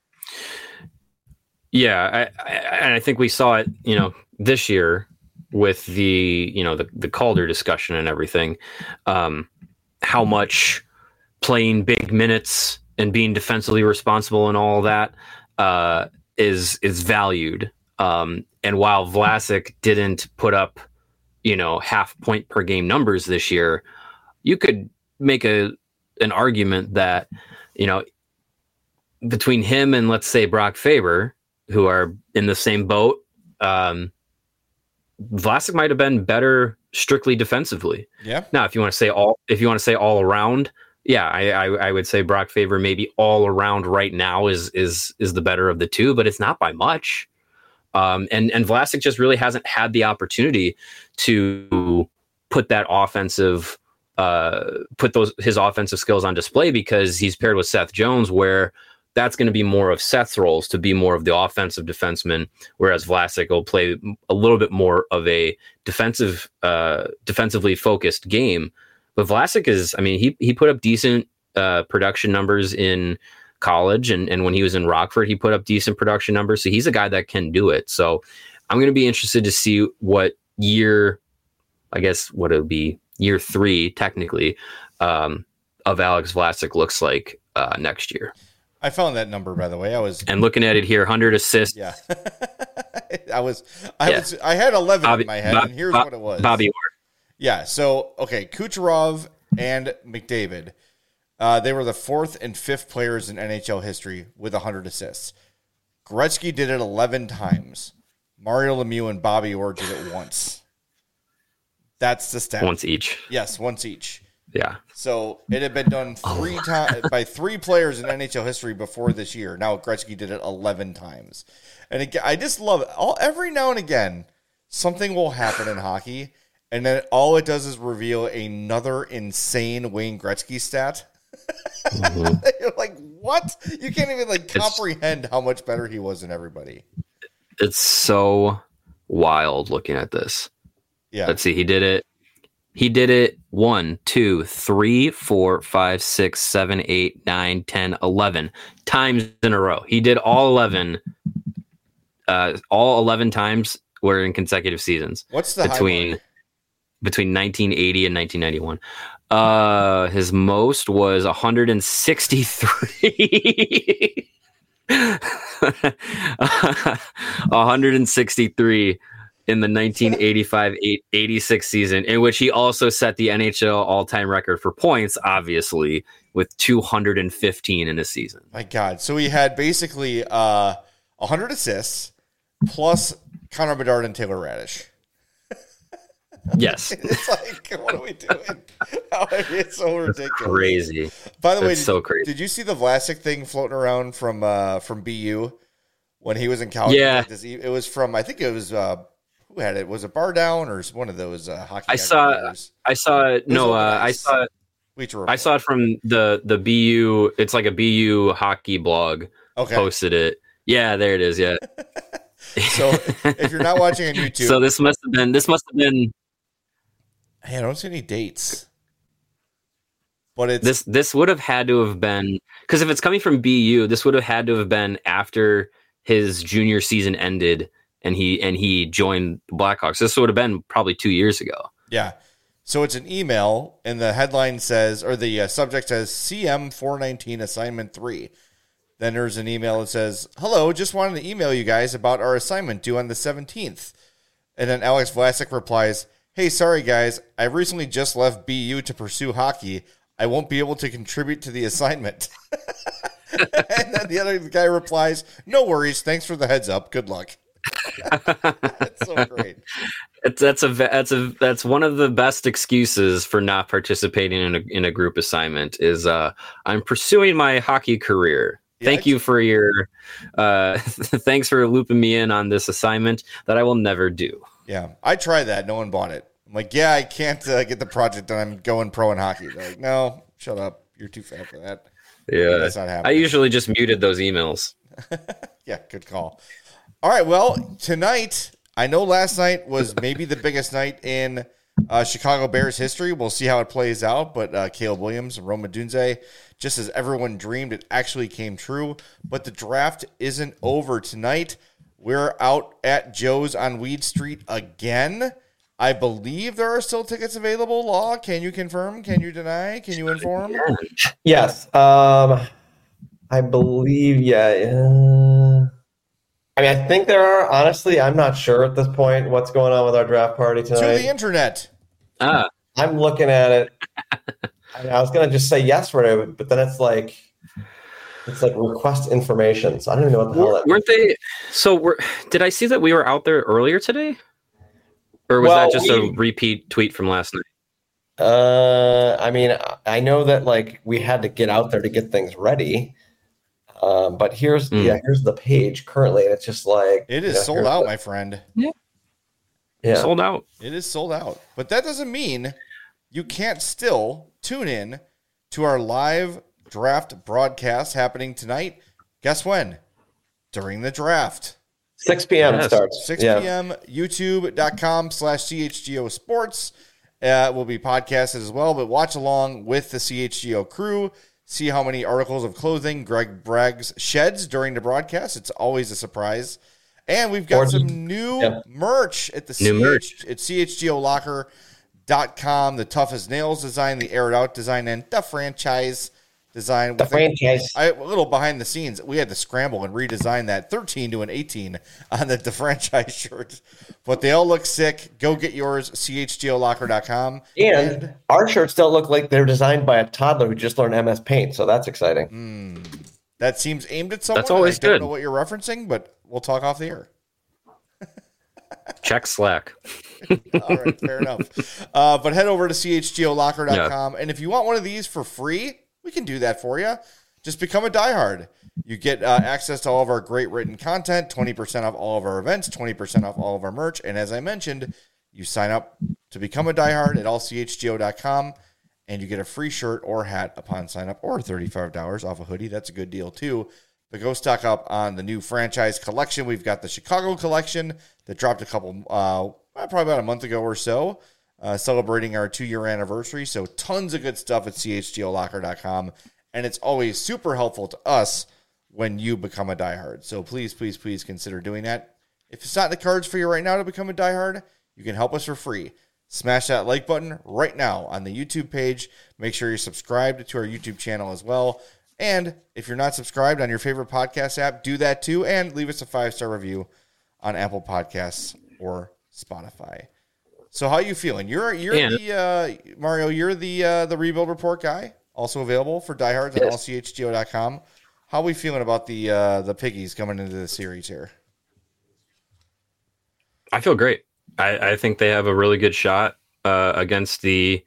Yeah, I, I, and I think we saw it. You know, this year with the you know the the Calder discussion and everything, um, how much playing big minutes and being defensively responsible and all that uh, is is valued. Um, and while Vlasic didn't put up, you know, half point per game numbers this year, you could make a an argument that, you know, between him and let's say Brock Faber, who are in the same boat, um, Vlasic might have been better strictly defensively. Yeah. Now, if you want to say all, if you want to say all around. Yeah, I, I I would say Brock Faber maybe all around right now is is is the better of the two, but it's not by much. Um, and and Vlasic just really hasn't had the opportunity to put that offensive, uh, put those his offensive skills on display because he's paired with Seth Jones, where that's going to be more of Seth's roles to be more of the offensive defenseman, whereas Vlasic will play a little bit more of a defensive, uh, defensively focused game. But Vlasic is, I mean, he he put up decent uh, production numbers in college, and, and when he was in Rockford, he put up decent production numbers. So he's a guy that can do it. So I'm going to be interested to see what year, I guess, what it would be year three, technically, um, of Alex Vlasic looks like uh, next year. I found that number, by the way. I was and looking at it here, one hundred assists. Yeah, I was, I yeah. was, I had eleven Bobby, in my head, Bob, and here's Bob, what it was. Bobby Orr. Yeah, so, okay, Kucherov and McDavid, uh, they were the fourth and fifth players in N H L history with one hundred assists. Gretzky did it eleven times. Mario Lemieux and Bobby Orr did it once. That's the stat. Once each. Yes, once each. Yeah. So it had been done three oh. times by three players in N H L history before this year. Now Gretzky did it eleven times. And again, I just love it. All, every now and again, something will happen in hockey, and then all it does is reveal another insane Wayne Gretzky stat. Mm-hmm. You're like, what? You can't even like comprehend it's, how much better he was than everybody. It's so wild looking at this. Yeah. Let's see. He did it. He did it one, two, three, four, five, six, seven, eight, nine, ten, eleven times in a row. He did all eleven. Uh, all eleven times were in consecutive seasons. What's the between high between nineteen eighty and nineteen ninety-one? Uh, his most was one hundred sixty-three. one hundred sixty-three in the nineteen eighty-five eighty-six season, in which he also set the N H L all-time record for points, obviously, with two hundred fifteen in a season. My God. So he had basically uh, one hundred assists plus Connor Bedard and Taylor Radish. Yes. It's like, what are we doing? It's so ridiculous. Crazy. By the way, it's did, so crazy. Did you see the Vlasic thing floating around from uh, from B U when he was in college? Yeah. Like this, it was from, I think it was, uh, who had it? Was it Bar Down or one of those uh, hockey? I saw, members? I saw it. It was No, over uh, I ice. saw it. Bleacher I saw it from the, the B U. It's like a B U hockey blog Okay. posted it. Yeah, there it is. Yeah. So if you're not watching on YouTube, So this must have been, this must have been, hey, I don't see any dates. But it's this, this would have had to have been, because if it's coming from B U, this would have had to have been after his junior season ended and he, and he joined the Blackhawks. This would have been probably two years ago. yeah. So it's an email, and the headline says, or the uh, subject says, C M four nineteen assignment three. Then there's an email that says, hello, just wanted to email you guys about our assignment due on the seventeenth. And then Alex Vlasic replies, hey, sorry guys, I recently just left B U to pursue hockey. I won't be able to contribute to the assignment. And then the other guy replies, no worries, thanks for the heads up. Good luck. That's so great. It's, that's a that's a that's one of the best excuses for not participating in a in a group assignment is uh, I'm pursuing my hockey career. Yeah, Thank you for your uh, thanks for looping me in on this assignment that I will never do. Yeah, I tried that. No one bought it. I'm like, yeah, I can't uh, get the project done. I'm going pro in hockey. They're like, no, shut up. You're too fat for that. Yeah, that's not I happening. usually just muted those emails. Yeah, good call. All right, well, tonight, I know last night was maybe the biggest night in uh, Chicago Bears history. We'll see how it plays out, but uh, Caleb Williams and Roma Dunze, just as everyone dreamed, it actually came true. But the draft isn't over tonight. We're out at Joe's on Weed Street again. I believe there are still tickets available. Law, can you confirm? Can you deny? Can you inform? Yes. Um, I believe, yeah. Uh, I mean, I think there are. Honestly, I'm not sure at this point what's going on with our draft party To tonight. the internet. Ah, I'm looking at it. I, mean, I was going to just say yes right away, but then it's like, it's like request information. So I don't even know what the hell that weren't they? So were did I see that we were out there earlier today, or was Well, that just we- a repeat tweet from last night? Uh, I mean, I know that like we had to get out there to get things ready. Um, but here's Mm. yeah, here's the page currently, and it's just like It you is know, sold here's out, the- my friend. yeah. Sold out. It is sold out. But that doesn't mean you can't still tune in to our live draft broadcast happening tonight. Guess when? During the draft. six p.m. Yes. it starts. six yeah. p.m. YouTube.com slash CHGO Sports. Uh, will be podcasted as well, but watch along with the C H G O crew. See how many articles of clothing Greg Braggs sheds during the broadcast. It's always a surprise. And we've got Or- some new yeah. merch at the New C H, merch. at C H G O Locker dot com. The toughest nails design, the aired out design, and the franchise design. The With a- franchise. I, a little behind the scenes, we had to scramble and redesign that thirteen to an eighteen on the, the franchise shirt. But they all look sick. Go get yours, C H G O Locker dot com. And our shirts don't look like they're designed by a toddler who just learned M S Paint, so that's exciting. Mm, that seems aimed at someone. That's always I don't good. know what you're referencing, but we'll talk off the air. Check Slack. All right, fair enough. Uh, but head over to C H G O Locker dot com. And if you want one of these for free, we can do that for you. Just become a diehard. You get uh, access to all of our great written content, twenty percent off all of our events, twenty percent off all of our merch. And as I mentioned, you sign up to become a diehard at all C H G O dot com, and you get a free shirt or hat upon sign up, or thirty-five dollars off a hoodie. That's a good deal, too. But go stock up on the new franchise collection. We've got the Chicago collection that dropped a couple, uh, probably about a month ago or so, uh, celebrating our two-year anniversary. So tons of good stuff at C H G O Locker dot com. And it's always super helpful to us when you become a diehard. So please, please, please consider doing that. If it's not in the cards for you right now to become a diehard, you can help us for free. Smash that like button right now on the YouTube page. Make sure you're subscribed to our YouTube channel as well. And if you're not subscribed on your favorite podcast app, do that too. And leave us a five-star review on Apple Podcasts or Spotify. So how are you feeling? You're you're And- the uh, Mario. You're the uh, the Rebuild Report guy. Also available for diehards at Yes. all C H G O dot com. How are we feeling about the uh, the piggies coming into the series here? I feel great. I, I think they have a really good shot uh, against the.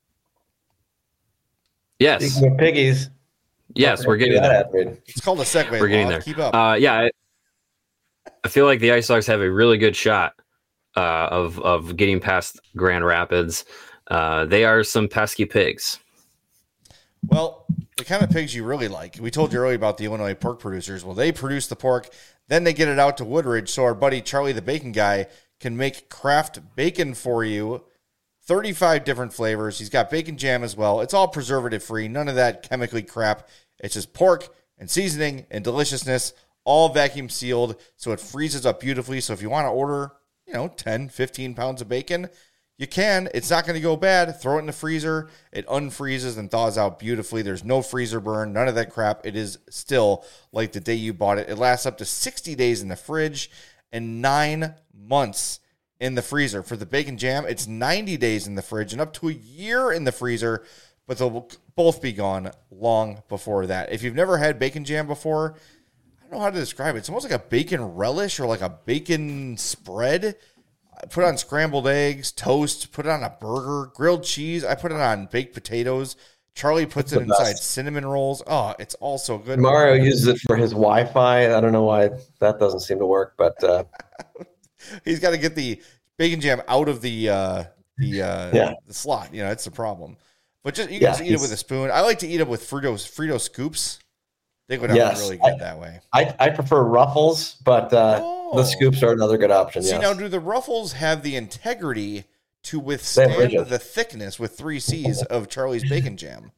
Yes. Speaking of piggies. Yes, we're getting there. It's called a segue. We're getting Law. there. Keep up. Uh, yeah, I, I feel like the Ice Dogs have a really good shot uh, of of getting past Grand Rapids. Uh, they are some pesky pigs. Well, the kind of pigs you really like. We told you earlier about the Illinois pork producers. Well, they produce the pork, then they get it out to Woodridge, so our buddy Charlie the Bacon Guy can make craft bacon for you. thirty-five different flavors. He's got bacon jam as well. It's all preservative free. None of that chemically crap. It's just pork and seasoning and deliciousness, all vacuum sealed, so it freezes up beautifully. So if you want to order, you know, ten, fifteen pounds of bacon, you can. It's not going to go bad. Throw it in the freezer. It unfreezes and thaws out beautifully. There's no freezer burn, none of that crap. It is still like the day you bought it. It lasts up to sixty days in the fridge and nine months in the freezer. For the bacon jam, it's ninety days in the fridge and up to a year in the freezer, but they'll both be gone long before that. If you've never had bacon jam before, I don't know how to describe it. It's almost like a bacon relish or like a bacon spread. I put it on scrambled eggs, toast, put it on a burger, grilled cheese. I put it on baked potatoes. Charlie puts it inside best. cinnamon rolls. Oh, it's all so good. Mario uses it for his Wi-Fi. I don't know why that doesn't seem to work, but uh... he's got to get the bacon jam out of the uh, the uh, yeah. the slot. You know, that's the problem. But just you can yeah, just eat it with a spoon. I like to eat it with Fritos Frito scoops. They go down yes, really good I, that way. I, I prefer Ruffles, but uh, oh. the scoops are another good option. See, yes. now do the Ruffles have the integrity to withstand the thickness with three C's of Charlie's bacon jam?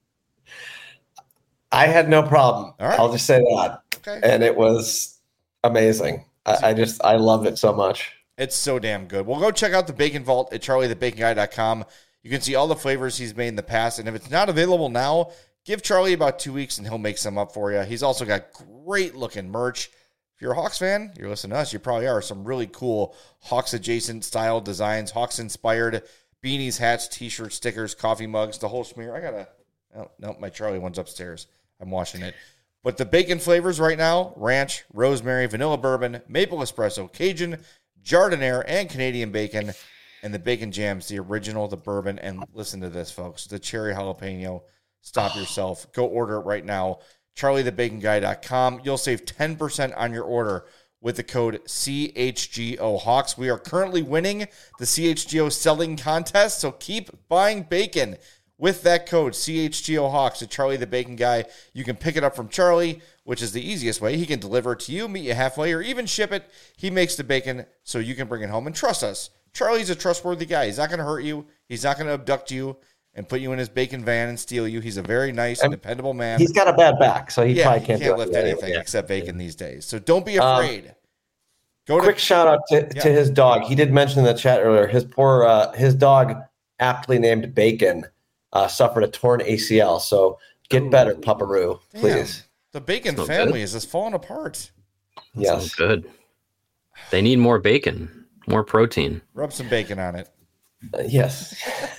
I had no problem. All right. I'll just say that. Okay. And it was amazing. I, I just, I loved it so much. It's so damn good. Well, go check out the Bacon Vault at charlie the bacon guy dot com. You can see all the flavors he's made in the past. And if it's not available now, give Charlie about two weeks and he'll make some up for you. He's also got great looking merch. If you're a Hawks fan, you're listening to us, you probably are. Some really cool Hawks adjacent style designs, Hawks inspired beanies, hats, t-shirts, stickers, coffee mugs, the whole schmear. I got to, oh, no, my Charlie one's upstairs. I'm washing it. But the bacon flavors right now, ranch, rosemary, vanilla bourbon, maple espresso, Cajun, Jardiniere, and Canadian bacon. And the bacon jam's the original, the bourbon. And listen to this, folks, the cherry jalapeno. Stop yourself. Go order it right now. charlie the bacon guy dot com. You'll save ten percent on your order with the code C H G O Hawks. We are currently winning the C H G O selling contest, so keep buying bacon with that code C H G O Hawks at Charlie the Bacon Guy. You can pick it up from Charlie, which is the easiest way. He can deliver it to you, meet you halfway, or even ship it. He makes the bacon so you can bring it home. And trust us, Charlie's a trustworthy guy. He's not going to hurt you. He's not going to abduct you and put you in his bacon van and steal you. He's a very nice and dependable man. He's got a bad back, so he yeah, probably he can't, can't do lift anything, anything except bacon these days. So don't be afraid. Um, Go to, quick shout out to, yeah. to his dog. He did mention in the chat earlier, his poor uh, his dog, aptly named Bacon, uh, suffered a torn A C L. So get better, Pupperoo, please. The Bacon Smells family good. is just falling apart. That yes. good. They need more bacon, more protein. Rub some bacon on it. Uh, yes.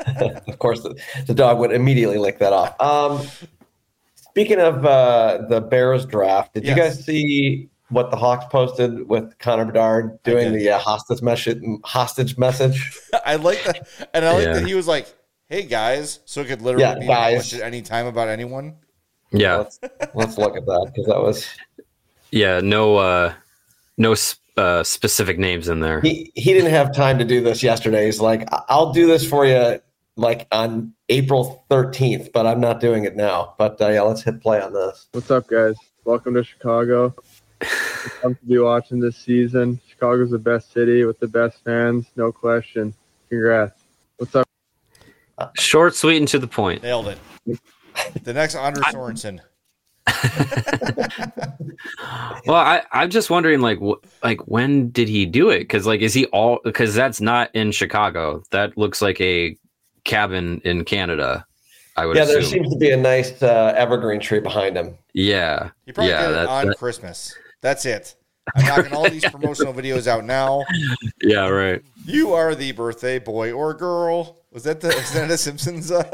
Of course, the, the dog would immediately lick that off. Um, speaking of uh, the Bears draft, did yes. you guys see what the Hawks posted with Connor Bedard doing the uh, hostage message? Hostage message. I like that, and I like yeah. that he was like, "Hey guys," so it could literally yeah, be guys. at any time about anyone. Yeah, let's, let's look at that because that was. Yeah, no, uh, no uh, specific names in there. He he didn't have time to do this yesterday. He's like, "I'll do this for you." Like on April thirteenth, but I'm not doing it now. But uh, yeah, let's hit play on this. What's up, guys? Welcome to Chicago. I'm to be watching this season. Chicago's the best city with the best fans, no question. Congrats. What's up? Short, sweet, and to the point. Nailed it. The next Anders Sorensen. Well, I, I'm just wondering, like, wh- like when did he do it? Because, like, is he all? Because that's not in Chicago. That looks like a cabin in Canada. I would. Yeah, assume. there seems to be a nice uh, evergreen tree behind him. Yeah, you probably yeah, did it that, on that... Christmas. That's it. I'm knocking all these promotional videos out now. Yeah, right. You are the birthday boy or girl. Was that the? Is that a Simpsons? Uh...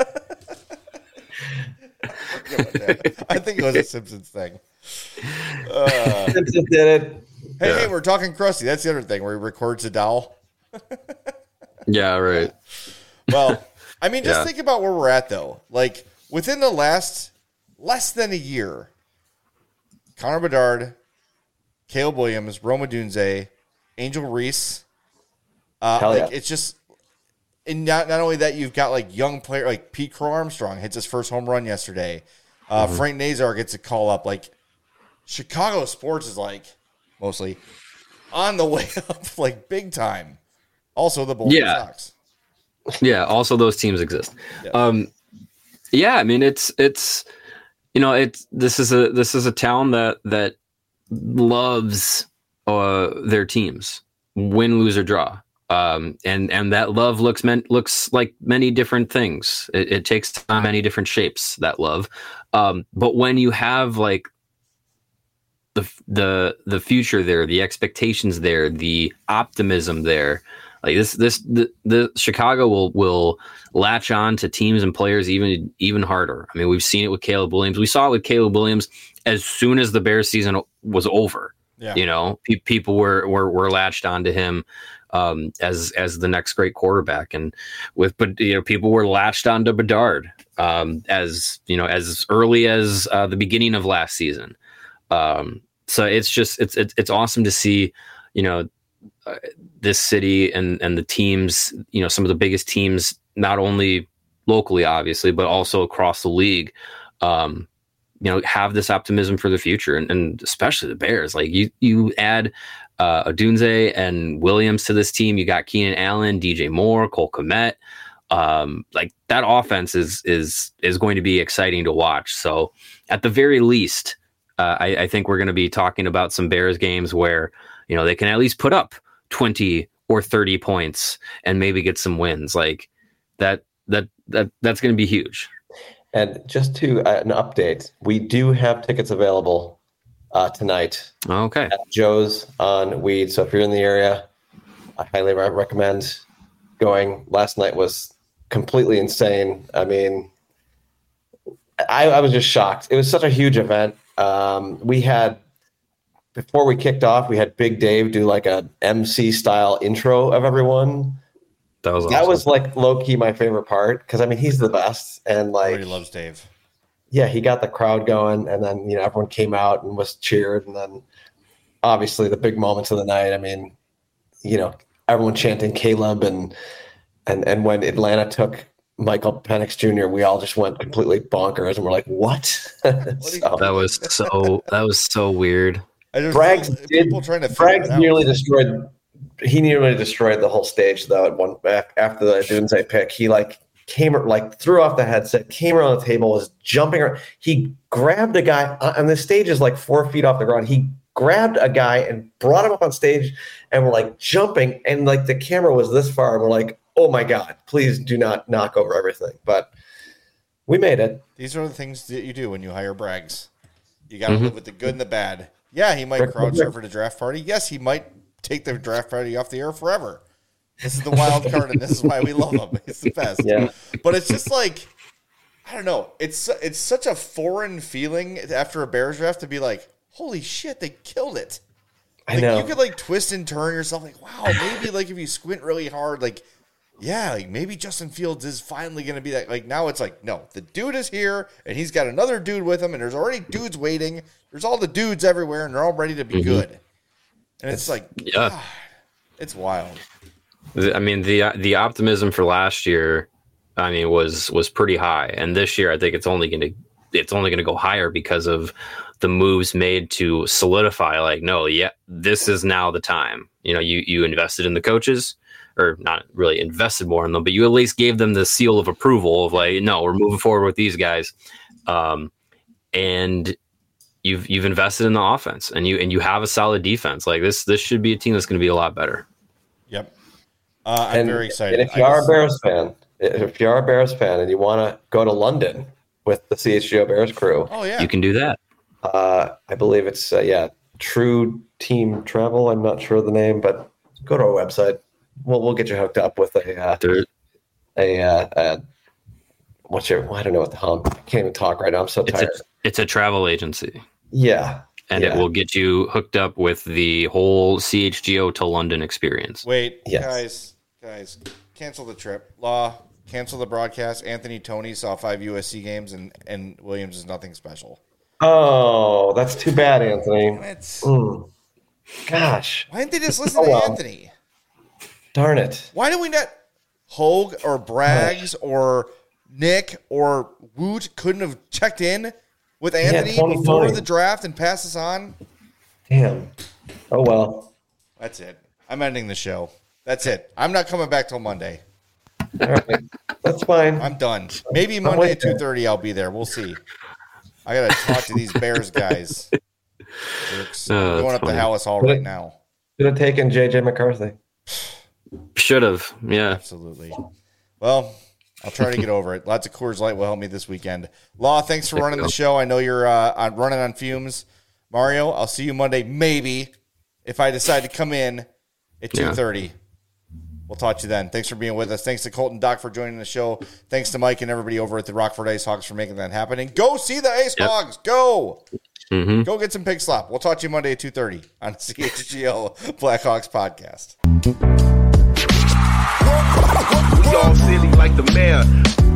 I think it was a Simpsons thing. Uh, Simpsons did it. Hey, yeah. hey, we're talking Krusty. That's the other thing where he records a doll. Yeah, right. Well, I mean, just Yeah. think about where we're at, though. Like, within the last less than a year, Connor Bedard, Caleb Williams, Roma Dunze, Angel Reese. Uh, Hell like yeah. it's just, and not not only that, you've got like young player like Pete Crow Armstrong hits his first home run yesterday. Uh, Mm-hmm. Frank Nazar gets a call up. Like Chicago sports is like mostly on the way up, like big time. Also, the Boston Yeah. Sox. Yeah, also those teams exist. Yeah. Um, yeah, I mean it's it's you know it's this is a this is a town that that loves uh, their teams, win, lose or draw, um, and and that love looks meant looks like many different things. It, it takes on many different shapes. That love, um, but when you have like the the the future there, the expectations there, the optimism there. Like this, this the, the Chicago will will latch on to teams and players even even harder. I mean, we've seen it with Caleb Williams. We saw it with Caleb Williams as soon as the Bears season was over. Yeah. You know, pe- people were were were latched onto him um, as as the next great quarterback, and with but you know people were latched onto Bedard um, as you know as early as uh, the beginning of last season. Um, so it's just it's it's it's awesome to see. You know. Uh, this city and and the teams, you know, some of the biggest teams, not only locally, obviously, but also across the league, um, you know, have this optimism for the future, and, and especially the Bears. Like you, you add uh, Odunze and Williams to this team. You got Keenan Allen, D J Moore, Cole Kmet. Um, like that offense is is is going to be exciting to watch. So at the very least, uh, I, I think we're going to be talking about some Bears games where you know they can at least put up twenty or thirty points and maybe get some wins like that. That that that's going to be huge. And just to uh, an update, we do have tickets available uh, tonight Okay. at Joe's on Weed. So if you're in the area, I highly re- recommend going. Last night was completely insane. I mean, I, I was just shocked. It was such a huge event. Um, we had. Before we kicked off, we had Big Dave do like a M C style intro of everyone. That was awesome. That was like low key my favorite part because I mean he's the best and like Everybody loves Dave. Yeah, he got the crowd going, and then you know everyone came out and was cheered, and then obviously the big moments of the night. I mean, you know, everyone chanting Caleb and and and when Atlanta took Michael Penix Junior, we all just went completely bonkers, and we're like, what? So, that was so that was so weird. I just Braggs did. people trying to figure it Braggs out. nearly destroyed. He nearly destroyed the whole stage though. At one after the Dunze pick, he like came like threw off the headset, came around the table, was jumping around. He grabbed a guy, and the stage is like four feet off the ground. He grabbed a guy and brought him up on stage, and we're like jumping, and like the camera was this far, and we're like, oh my god, please do not knock over everything. But we made it. These are the things that you do when you hire Braggs. You got to Mm-hmm. live with the good and the bad. Yeah, he might crowd surf at a draft party. Yes, he might take the draft party off the air forever. This is the wild card, and this is why we love him. He's the best. Yeah. But it's just like, I don't know. It's it's such a foreign feeling after a Bears draft to be like, holy shit, they killed it. I Like, know. you could like twist and turn yourself like, wow, maybe like if you squint really hard, like, yeah, like maybe Justin Fields is finally going to be that. Like now it's like, no, the dude is here and he's got another dude with him and there's already dudes waiting. There's all the dudes everywhere and they're all ready to be Mhm. good. And it's, it's like, Yeah. God, it's wild. I mean, the the optimism for last year, I mean, was was pretty high, and this year I think it's only going to it's only going to go higher because of the moves made to solidify. Like, no, yeah, this is now the time. You know, you you invested in the coaches, or not really invested more in them, but you at least gave them the seal of approval of like, no, we're moving forward with these guys, um, and you've you've invested in the offense, and you and you have a solid defense. Like this, this should be a team that's going to be a lot better. Yep. Uh, I'm and, very excited. And if you I are just- a Bears fan, if you are a Bears fan and you want to go to London with the C H G O Bears crew, oh yeah, You can do that. uh, I believe it's uh, yeah, True Team Travel. I'm not sure of the name, but go to our website. We'll we'll get you hooked up with a uh, There, a, uh, a what's your I don't know what the hell I can't even talk right now. I'm so it's tired. a it's a travel agency. yeah, And yeah. it will get you hooked up with the whole C H G O to London experience. Wait, Yes. guys, guys, cancel the trip. Law, cancel the broadcast. Anthony Tony saw five U S C games, and, and Williams is nothing special. Oh, that's too bad, Anthony. It's, mm. Gosh. Why didn't they just listen oh, to well. Anthony? Darn it. Why did we not Hogue or Braggs or Nick or Woot couldn't have checked in with Anthony yeah, before the draft and pass us on? Damn. Oh, well. That's it. I'm ending the show. That's it. I'm not coming back till Monday. All right. That's fine. I'm done. Maybe Monday at two thirty I'll be there. We'll see. I got to talk to these Bears guys. Oh, I'm going up funny. to Hallis Hall right now. Should have taken J J McCarthy. Should have. Yeah. Absolutely. Well, I'll try to get over it. Lots of Coors Light will help me this weekend. Law, thanks for running the show. I know you're uh, on, running on fumes. Mario, I'll see you Monday, maybe, if I decide to come in at two thirty. Yeah. We'll talk to you then. Thanks for being with us. Thanks to Colton Doc for joining the show. Thanks to Mike and everybody over at the Rockford Ice Hogs for making that happen. And go see the Ice yep. Hogs. Go. Mm-hmm. Go get some pig slop. We'll talk to you Monday at two thirty on the C H G O Blackhawks podcast. We all silly like the mayor.